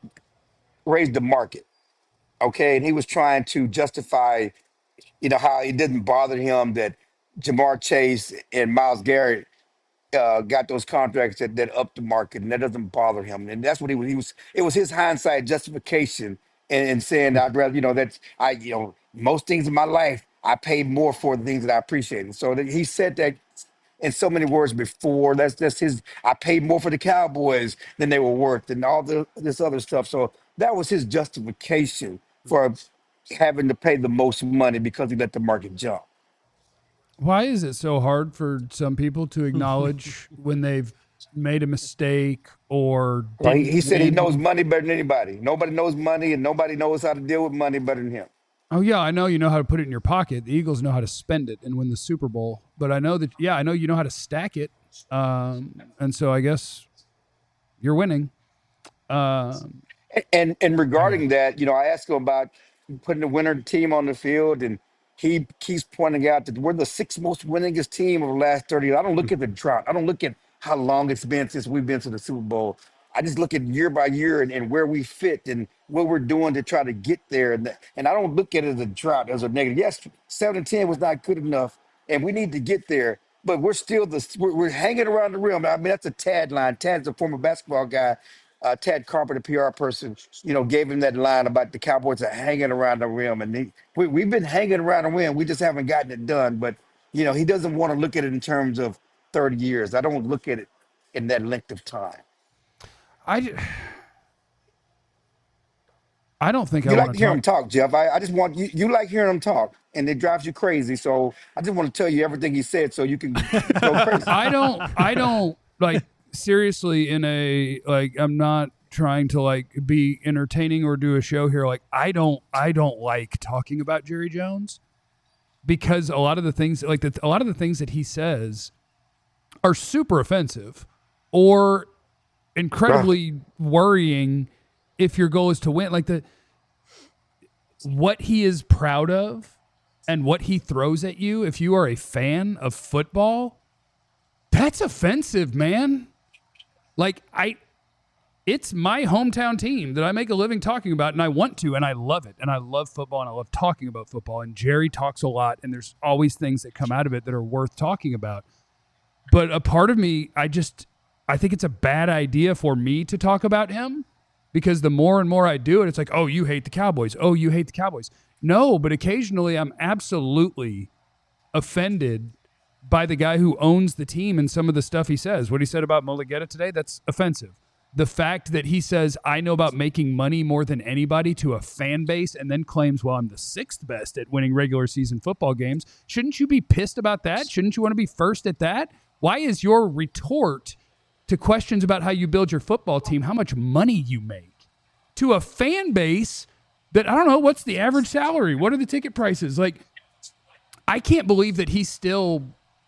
raise the market. Okay, and he was trying to justify, you know, how it didn't bother him that Jamar Chase and Myles Garrett uh, got those contracts that, that upped the market, and that doesn't bother him. And that's what he was. He was. It was his hindsight justification and, and saying, "I'd rather, you know, that's I, you know, most things in my life I paid more for the things that I appreciated." So that he said that in so many words before. That's that's his. I paid more for the Cowboys than they were worth, and all the this other stuff. So that was his justification for having to pay the most money because he let the market jump. why is it so hard for some people to acknowledge when they've made a mistake or Well, he, didn't he said he win? knows money better than anybody. Nobody knows money, and nobody knows how to deal with money better than him. Oh yeah, I know you know how to put it in your pocket. The Eagles know how to spend it and win the Super Bowl. But I know that yeah, I know you know how to stack it. Um, and so I guess you're winning. Um, And and regarding that, you know, I asked him about putting the winner team on the field, and he keeps pointing out that we're the sixth most winningest team of the last thirty years. I don't look at the drought. I don't look at how long it's been since we've been to the Super Bowl. I just look at year by year and, and where we fit and what we're doing to try to get there. And, that- and I don't look at it as a drought, as a negative. Yes, seven and ten was not good enough, and we need to get there. But we're still the we're, we're hanging around the rim. I mean, that's a Tad line. Tad's a former basketball guy. Uh, Tad Carpenter, P R person, you know, gave him that line about the Cowboys are hanging around the rim, and he, we, we've been hanging around the rim. We just haven't gotten it done. But you know, he doesn't want to look at it in terms of thirty years. I don't look at it in that length of time. I, ju- I don't think You I like want to to hear him talk. talk, Jeff. I, I just want you. You like hearing him talk, and it drives you crazy. So I just want to tell you everything he said, so you can go crazy. I don't. I don't like seriously. In a like, I'm not trying to like be entertaining or do a show here. Like, I don't. I don't like talking about Jerry Jones because a lot of the things, like the, a lot of the things that he says, are super offensive or incredibly worrying if your goal is to win. Like the what he is proud of and what he throws at you, if you are a fan of football, that's offensive, man. Like I it's my hometown team that I make a living talking about, and I want to, and I love it, and I love football, and I love talking about football, and Jerry talks a lot, and there's always things that come out of it that are worth talking about. But a part of me, I just I think it's a bad idea for me to talk about him because the more and more I do it, it's like, oh, you hate the Cowboys. Oh, you hate the Cowboys. No, but occasionally I'm absolutely offended by the guy who owns the team and some of the stuff he says. What he said about Mulligetta today, that's offensive. The fact that he says, I know about making money more than anybody to a fan base and then claims, well, I'm the sixth best at winning regular season football games. Shouldn't you be pissed about that? Shouldn't you want to be first at that? Why is your retort to questions about how you build your football team how much money you make to a fan base that, I don't know, what's the average salary? What are the ticket prices? Like, I can't believe that he's still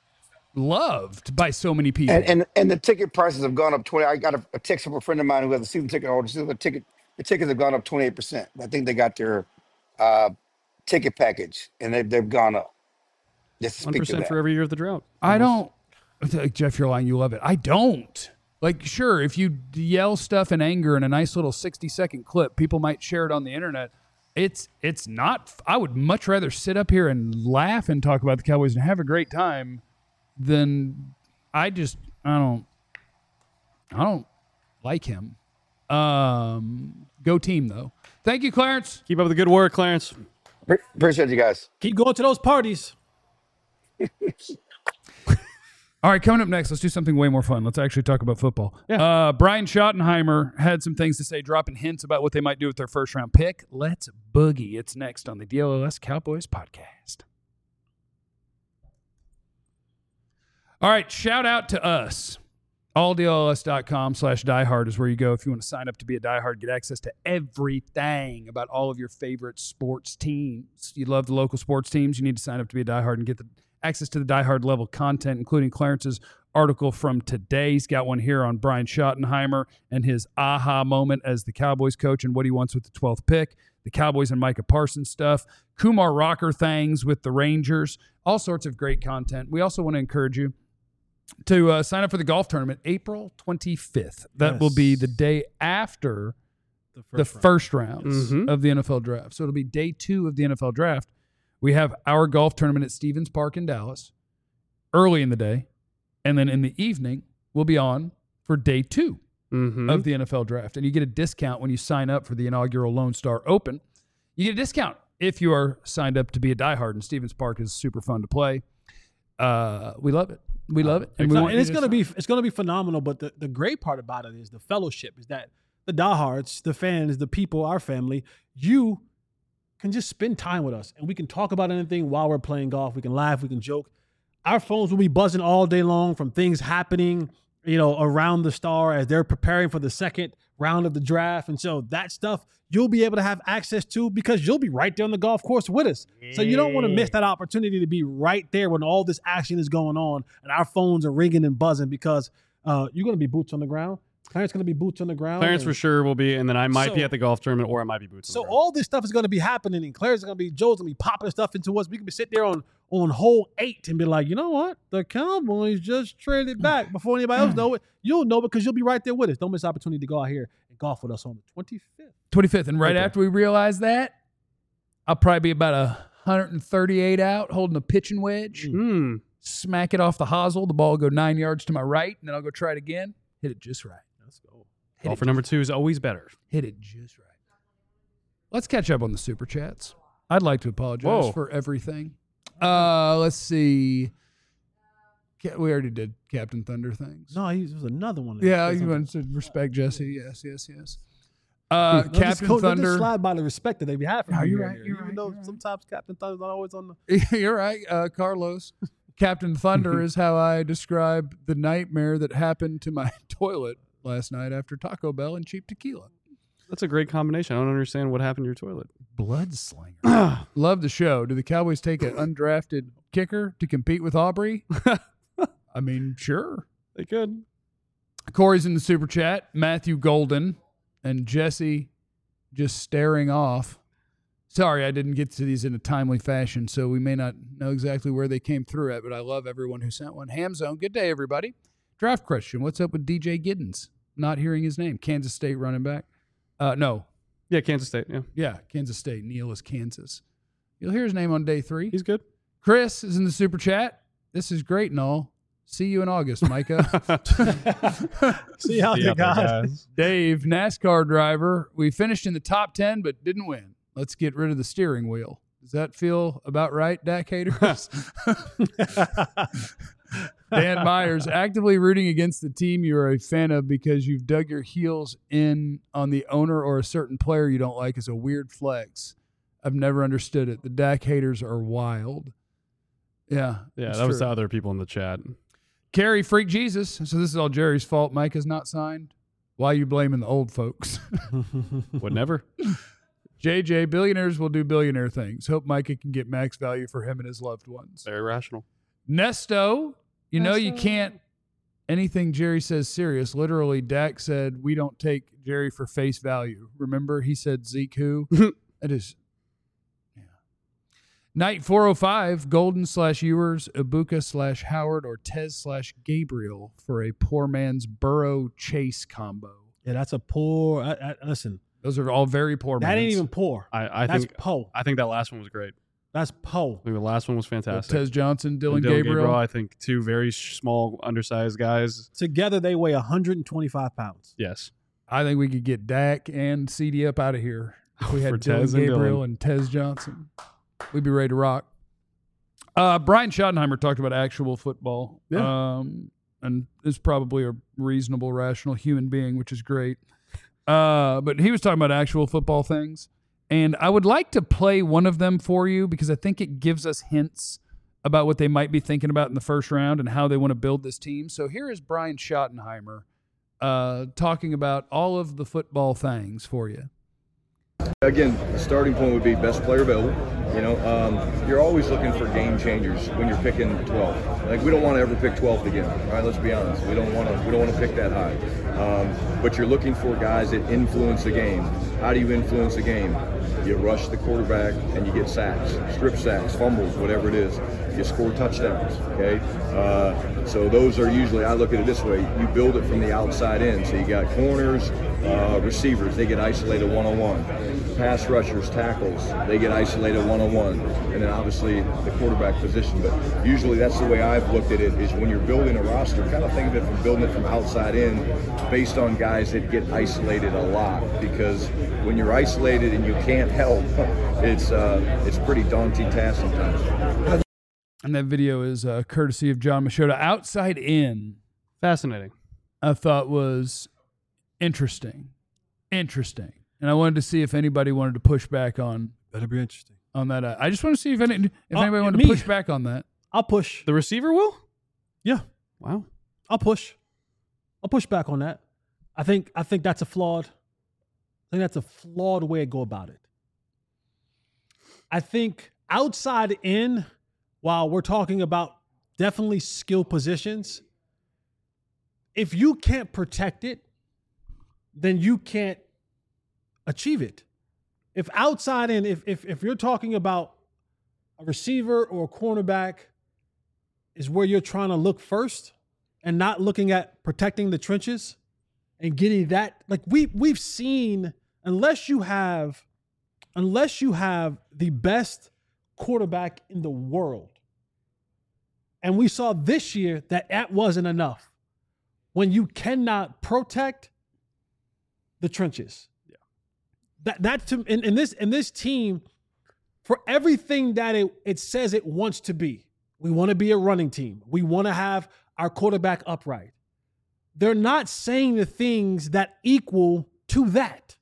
loved by so many people. And, and and the ticket prices have gone up twenty. I got a, a text from a friend of mine who has a season ticket holder. She said the ticket the tickets have gone up twenty eight percent. I think they got their uh, ticket package and they they've gone up. Just to One speak to percent that. for every year of the drought. I don't, like, Jeff, you're lying. You love it. I don't. Like, sure, if you yell stuff in anger in a nice little sixty second clip, people might share it on the internet. It's it's not. I would much rather sit up here and laugh and talk about the Cowboys and have a great time then I just I don't I don't like him. Um, go team though. Thank you, Clarence. Keep up the good work, Clarence. Pre- Appreciate you guys. Keep going to those parties. All right, coming up next, let's do something way more fun. Let's actually talk about football. Yeah. Uh, Brian Schottenheimer had some things to say, dropping hints about what they might do with their first round pick. Let's boogie. It's next on the D L O S Cowboys podcast. All right, shout out to us. all D L O S dot com slash diehard is where you go if you want to sign up to be a diehard, get access to everything about all of your favorite sports teams. You love the local sports teams, you need to sign up to be a diehard and get the access to the diehard level content, including Clarence's article from today. He's got one here on Brian Schottenheimer and his aha moment as the Cowboys coach and what he wants with the twelfth pick. The Cowboys and Micah Parsons stuff. Kumar Rocker things with the Rangers. All sorts of great content. We also want to encourage you to uh, sign up for the golf tournament April twenty-fifth. That Yes. will be the day after The the first round. first rounds Mhm. of the N F L draft. So it'll be day two of the N F L draft. We have our golf tournament at Stevens Park in Dallas early in the day. And then in the evening, we'll be on for day two Mm-hmm. of the N F L draft. And you get a discount when you sign up for the inaugural Lone Star Open. You get a discount if you are signed up to be a diehard. And Stevens Park is super fun to play. Uh, we love it. We love it. And, we No, want and you it's to gonna sign- be it's gonna be phenomenal. But the, the great part about it is the fellowship. Is that the diehards, the fans, the people, our family, you can just spend time with us, and we can talk about anything while we're playing golf. We can laugh, we can joke. Our phones will be buzzing all day long from things happening, you know, around the star as they're preparing for the second round of the draft, and so that stuff you'll be able to have access to because you'll be right there on the golf course with us. So you don't want to miss that opportunity to be right there when all this action is going on and our phones are ringing and buzzing because uh, you're going to be boots on the ground. Clarence going to be boots on the ground. Clarence and- for sure will be, and then I might So- be at the golf tournament, or I might be boots. on So the ground. all this stuff is going to be happening, and Claire's going to be, Joe's going to be popping stuff into us. We can be sitting there on on hole eight and be like, you know what? The Cowboys just traded back before anybody else know it. You'll know because you'll be right there with us. Don't miss the opportunity to go out here and golf with us on the twenty-fifth. twenty-fifth. And right Okay. after we realize that, I'll probably be about one hundred thirty-eight out holding a pitching wedge. Hmm. Smack it off the hosel. The ball will go nine yards to my right, and then I'll go try it again. Hit it just right. Let's go. Hit Golfer it, number two is always better. hit it just right. Let's catch up on the super chats. I'd like to apologize Whoa. for everything. Uh, let's see. Ca- We already did Captain Thunder things. No, he, there was another one. Yeah, There's you something. want to respect Jesse. Yes, yes, yes. Uh, No, just Captain go- don't Thunder. Just slide by the respect that they have for No, me you're here. right, you're Even right, though you're right. sometimes Captain Thunder's not always on the. You're right, uh, Carlos. Captain Thunder is how I describe the nightmare that happened to my toilet last night after Taco Bell and cheap tequila. That's a great combination. I don't understand what happened to your toilet. Blood slinger. Love the show. Do the Cowboys take an undrafted kicker to compete with Aubrey? I mean, sure. They could. Corey's in the super chat. Matthew Golden and Jesse just staring off. Sorry, I didn't get to these in a timely fashion, so we may not know exactly where they came through at, but I love everyone who sent one. Hamzone, good day, everybody. Draft question. What's up with D J Giddens? Not hearing his name. Kansas State running back. Uh, no. Yeah, Kansas State. Yeah, Yeah, Kansas State. Neil is Kansas. You'll hear his name on day three. he's good. Chris is in the super chat. This is great and all. See you in August, Micah. See how See they out there, got. guys. Dave, NASCAR driver. We finished in the top ten, but didn't win. Let's get rid of the steering wheel. Does that feel about right, Dak haters? Dan Myers, actively rooting against the team you are a fan of because you've dug your heels in on the owner or a certain player you don't like is a weird flex. I've never understood it. The Dak haters are wild. Yeah. Yeah, it's that was true. the other people in the chat. Carrie Freak Jesus. So this is all Jerry's fault. Mike is not signed. Why are you blaming the old folks? Would never. J J, billionaires will do billionaire things. Hope Micah can get max value for him and his loved ones. Very rational. Nesto, you know you Nesto. can't anything Jerry says serious. Literally, Dak said we don't take Jerry for face value. Remember, he said Zeke who? That is, yeah. Night four oh five, Golden slash Ewers, Ibuka slash Howard, or Tez slash Gabriel for a poor man's Burrow Chase combo. Yeah, that's a poor. I, I, listen, Those are all very poor that ain't mans. even poor. I, I That's think po. I think that last one was great. That's Poe. I think the last one was fantastic. Tez Johnson, Dylan, And Dylan Gabriel. I think two very sh- small, undersized guys. Together, they weigh one hundred twenty-five pounds. Yes. I think we could get Dak and C D up out of here. If we had For Dylan Tez and Gabriel Dylan. and, Tez Johnson, we'd be ready to rock. Uh, Brian Schottenheimer talked about actual football. Yeah. Um, and is probably a reasonable, rational human being, which is great. Uh, but he was talking about actual football things. And I would like to play one of them for you because I think it gives us hints about what they might be thinking about in the first round and how they want to build this team. So here is Brian Schottenheimer uh, talking about all of the football things for you. Again, the starting point would be best player available. You know, um, you're always looking for game changers when you're picking twelve. Like we don't want to ever pick twelfth again. All right, let's be honest. We don't want to. We don't want to pick that high. Um, but you're looking for guys that influence the game. How do you influence the game? You rush the quarterback and you get sacks, strip sacks, fumbles, whatever it is. You score touchdowns. Okay, uh, so those are usually. I look at it this way: you build it from the outside in. So you got corners, uh, receivers. They get isolated one on one. Pass rushers, tackles, they get isolated one-on-one, and then obviously the quarterback position. But usually that's the way I've looked at it, is when you're building a roster, kind of think of it from building it from outside in based on guys that get isolated a lot. Because when you're isolated and you can't help, it's uh, it's a pretty daunting task sometimes. And that video is uh, courtesy of John Machota. Outside in, Fascinating. I thought was interesting. Interesting. And I wanted to see if anybody wanted to push back on Better be interesting. on that. Uh, I just want to see if any if Uh, anybody wanted me. to push back on that. I'll push. The receiver will? Yeah, Wow. I'll push. I'll push back on that. I think I think that's a flawed. I think that's a flawed way to go about it. I think outside in, while we're talking about definitely skill positions, if you can't protect it, then you can't achieve it. If outside in, if if if you're talking about a receiver or a cornerback is where you're trying to look first and not looking at protecting the trenches and getting that, like we we've seen, unless you have unless you have the best quarterback in the world. And we saw this year that that wasn't enough. When you cannot protect the trenches. That that to in, in this in this team, for everything that it, it says it wants to be, we want to be a running team. We want to have our quarterback upright. They're not saying the things that equal to that.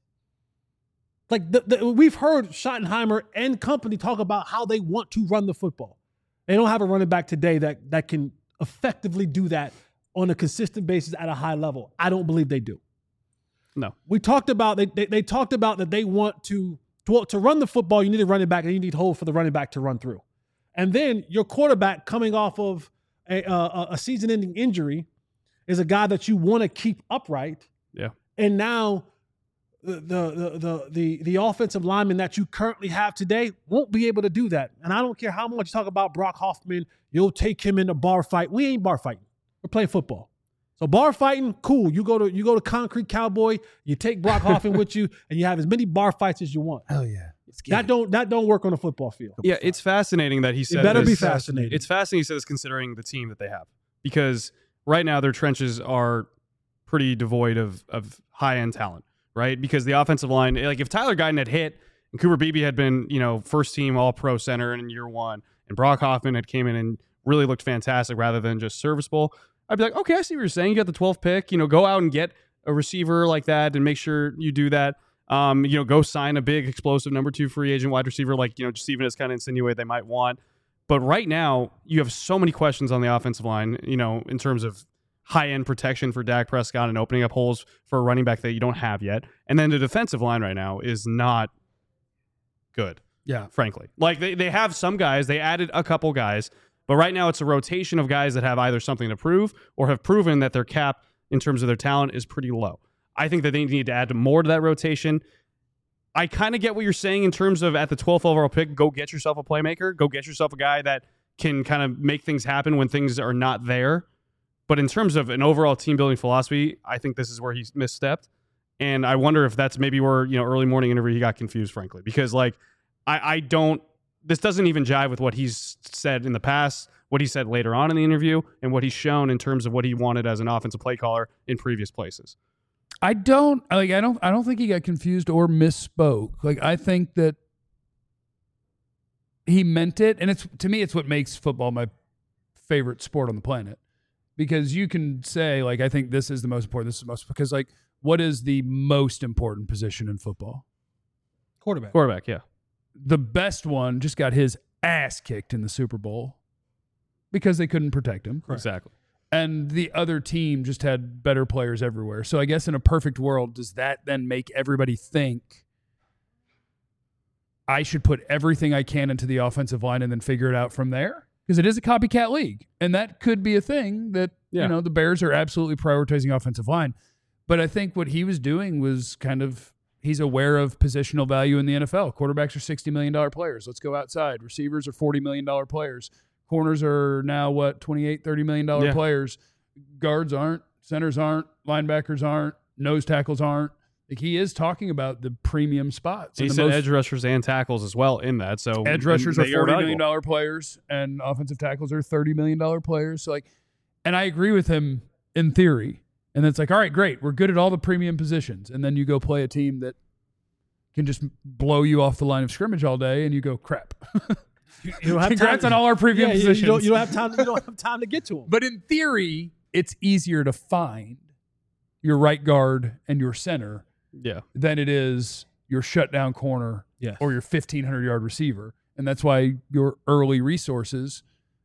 Like the, the, we've heard Schottenheimer and company talk about how they want to run the football. They don't have a running back today that that can effectively do that on a consistent basis at a high level. I don't believe they do. No. We talked about they, they they talked about that they want to to to run the football. You need a running back, and you need holes for the running back to run through. And then your quarterback coming off of a a, a season-ending injury is a guy that you want to keep upright. Yeah. And now the the the the the offensive lineman that you currently have today won't be able to do that. And I don't care how much you talk about Brock Hoffman. You'll take him in a bar fight. We ain't bar fighting. We're playing football. So bar fighting, cool. You go to you go to Concrete Cowboy, you take Brock Hoffman with you, and you have as many bar fights as you want. Hell yeah. That don't that don't work on a football field. Yeah, it's fascinating that he said It better this. be fascinating. It's fascinating he said this considering the team that they have. Because right now their trenches are pretty devoid of of high-end talent, right? Because the offensive line, like if Tyler Guyton had hit and Cooper Beebe had been, you know, first team all-pro center in year one, and Brock Hoffman had came in and really looked fantastic rather than just serviceable, I'd be like, okay, I see what you're saying. You got the twelfth pick. You know, go out and get a receiver like that and make sure you do that. Um, you know, go sign a big, explosive number two free agent wide receiver like, you know, just even as kind of insinuate they might want. But right now, you have so many questions on the offensive line, you know, in terms of high-end protection for Dak Prescott and opening up holes for a running back that you don't have yet. And then the defensive line right now is not good, Yeah. frankly. Like, they, they have some guys. They added a couple guys. But right now, it's a rotation of guys that have either something to prove or have proven that their cap in terms of their talent is pretty low. I think that they need to add more to that rotation. I kind of get what you're saying in terms of at the twelfth overall pick, go get yourself a playmaker. Go get yourself a guy that can kind of make things happen when things are not there. But in terms of an overall team-building philosophy, I think this is where he's misstepped. And I wonder if that's maybe where, you know, early morning interview he got confused, frankly. Because, like, I, I don't this doesn't even jive with what he's said in the past, what he said later on in the interview, and what he's shown in terms of what he wanted as an offensive play caller in previous places. I don't like. I don't. I don't think he got confused or misspoke. Like I think that he meant it, and it's to me, it's what makes football my favorite sport on the planet. Because you can say like, I think this is the most important. This is the most because like, what is the most important position in football? Quarterback. Quarterback, yeah. The best one just got his ass kicked in the Super Bowl because they couldn't protect him. Correct. Exactly. And the other team just had better players everywhere. So I guess in a perfect world, does that then make everybody think I should put everything I can into the offensive line and then figure it out from there? Because it is a copycat league. And that could be a thing that, Yeah. you know, the Bears are absolutely prioritizing offensive line. But I think what he was doing was kind of, he's aware of positional value in the N F L. Quarterbacks are sixty million dollars players. Let's go outside. Receivers are forty million dollars players. Corners are now, what, twenty-eight, thirty million dollars Yeah. players. Guards aren't. Centers aren't. Linebackers aren't. Nose tackles aren't. Like he is talking about the premium spots. He And the said most- edge rushers and tackles as well in that. So edge rushers and are they forty valuable. million dollars players, and offensive tackles are thirty million dollars players. So like, and I agree with him in theory. And it's like, all right, great. We're good at all the premium positions. And then you go play a team that can just blow you off the line of scrimmage all day, and you go, crap. You don't have Congrats time. on all our premium Yeah, you- positions. You don't, you don't have time. You don't have time to get to them. But in theory, it's easier to find your right guard and your center Yeah. than it is your shutdown corner Yes. or your fifteen hundred yard receiver. And that's why your early resources,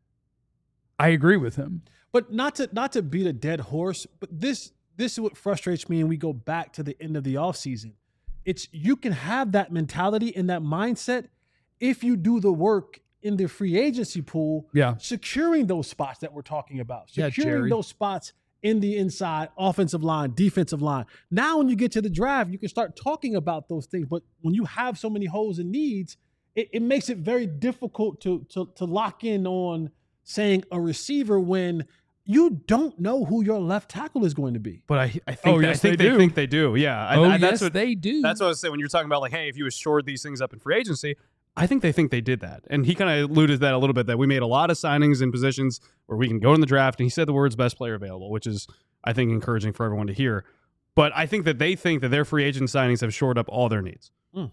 I agree with him. But not to not to beat a dead horse, but this this is what frustrates me, and we go back to the end of the offseason. It's you can have that mentality and that mindset if you do the work in the free agency pool, Yeah. securing those spots that we're talking about, Yeah, securing Jerry. those spots in the inside offensive line, defensive line. Now, when you get to the draft, you can start talking about those things. But when you have so many holes and needs, it, it makes it very difficult to, to to lock in on saying a receiver when you don't know who your left tackle is going to be. But I, I think, Oh, I yes, think they they, do. think they do. Yeah. I, Oh, I, yes, that's what, they do. That's what I was saying when you're talking about like, hey, if you assured these things up in free agency, I think they think they did that. And he kind of alluded to that a little bit, that we made a lot of signings in positions where we can go in the draft. And he said the words best player available, which is, I think, encouraging for everyone to hear. But I think that they think that their free agent signings have shored up all their needs.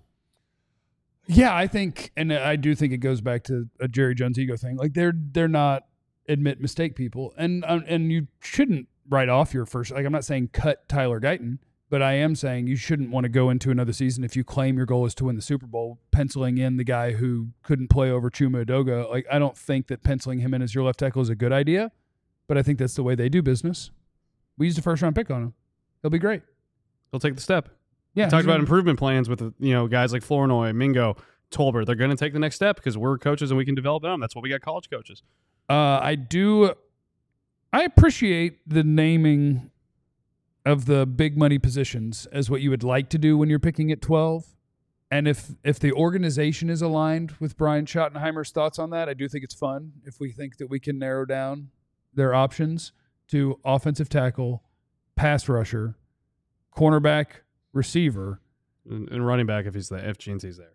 Yeah, I think, and I do think it goes back to a Jerry Jones ego thing. Like they're they're not admit mistake people, and um, and you shouldn't write off your first. Like I'm not saying cut Tyler Guyton, but I am saying you shouldn't want to go into another season if you claim your goal is to win the Super Bowl, penciling in the guy who couldn't play over Chuma Edoga. Like I don't think that penciling him in as your left tackle is a good idea, but I think that's the way they do business. We used a first round pick on him. He'll be great. They'll take the step. Yeah, Talked he's about gonna- improvement plans with you know guys like Flournoy, Mingo, Tolbert. They're going to take the next step because we're coaches and we can develop them. That's what we got college coaches. Uh, I do. I appreciate the naming of the big money positions as what you would like to do when you're picking at twelve. And if if the organization is aligned with Brian Schottenheimer's thoughts on that, I do think it's fun if we think that we can narrow down their options to offensive tackle, pass rusher, cornerback, receiver. And, and running back if he's there, if Jeansy's there.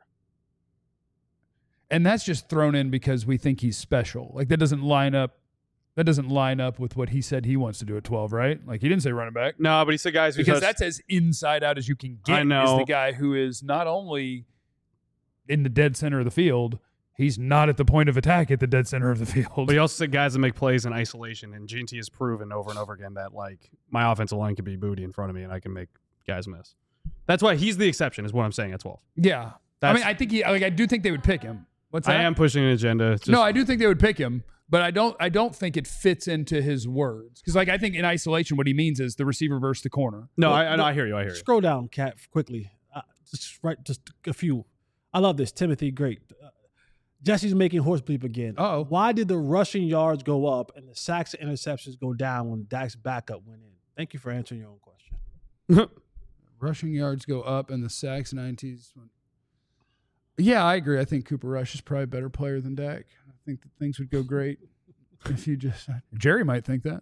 And that's just thrown in because we think he's special. Like that doesn't line up. That doesn't line up with what he said he wants to do at twelve, right? Like he didn't say running back. No, but he said guys who Because touched- that's as inside out as you can get. I know. Is the guy who is not only in the dead center of the field, he's not at the point of attack at the dead center of the field. But he also said guys that make plays in isolation, and G T has proven over and over again that like my offensive line can be booty in front of me, and I can make guys miss. That's why he's the exception, is what I'm saying at twelve. Yeah, I That's- mean, I think he. Like, I do think they would pick him. What's I that? am pushing an agenda. Just, no, I do think they would pick him, but I don't. I don't think it fits into his words because, like, I think in isolation, what he means is the receiver versus the corner. no, I, I, I hear you. I hear you. Scroll down, Cat, quickly. Uh, just right, just a few. I love this. Timothy, great. Uh, Jesse's making horse bleep again. Uh-oh. Why did the rushing yards go up and the sacks and interceptions go down when Dak's backup went in? Thank you for answering your own question. Rushing yards go up and the sacks and I N Ts. Yeah, I agree. I think Cooper Rush is probably a better player than Dak. I think that things would go great if you just. Jerry might think that.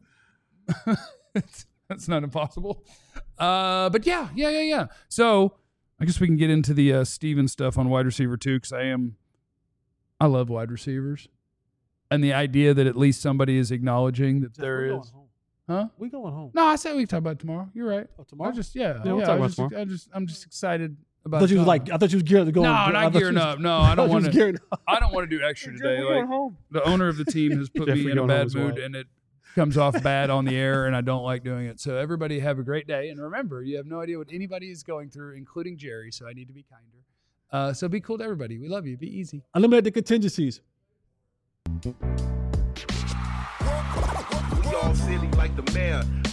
It's, that's not impossible. Uh, but yeah, yeah, yeah, yeah. So I guess we can get into the uh, Steven stuff on wide receiver too, because I am. I love wide receivers. And the idea that at least somebody is acknowledging that there We're is. going home. Huh? We going home. No, I said we can talk about it tomorrow. You're right. Oh, tomorrow? I just, yeah. Yeah, we'll yeah, talk I about just, tomorrow. I just, I'm just excited I about thought you was tomorrow. like, I thought you was geared to go. No, I not thought you gearing was- up. No, I don't thought you want was to. gearing up. I don't want to do extra today. Like, the owner of the team has put Jeff, me we in a going home bad as mood, well. and it comes off bad on the air, and I don't like doing it. So everybody have a great day, and remember, you have no idea what anybody is going through, including Jerry. So I need to be kinder. Uh, so be cool to everybody. We love you. Be easy. Eliminate the contingencies. We all silly like the mayor.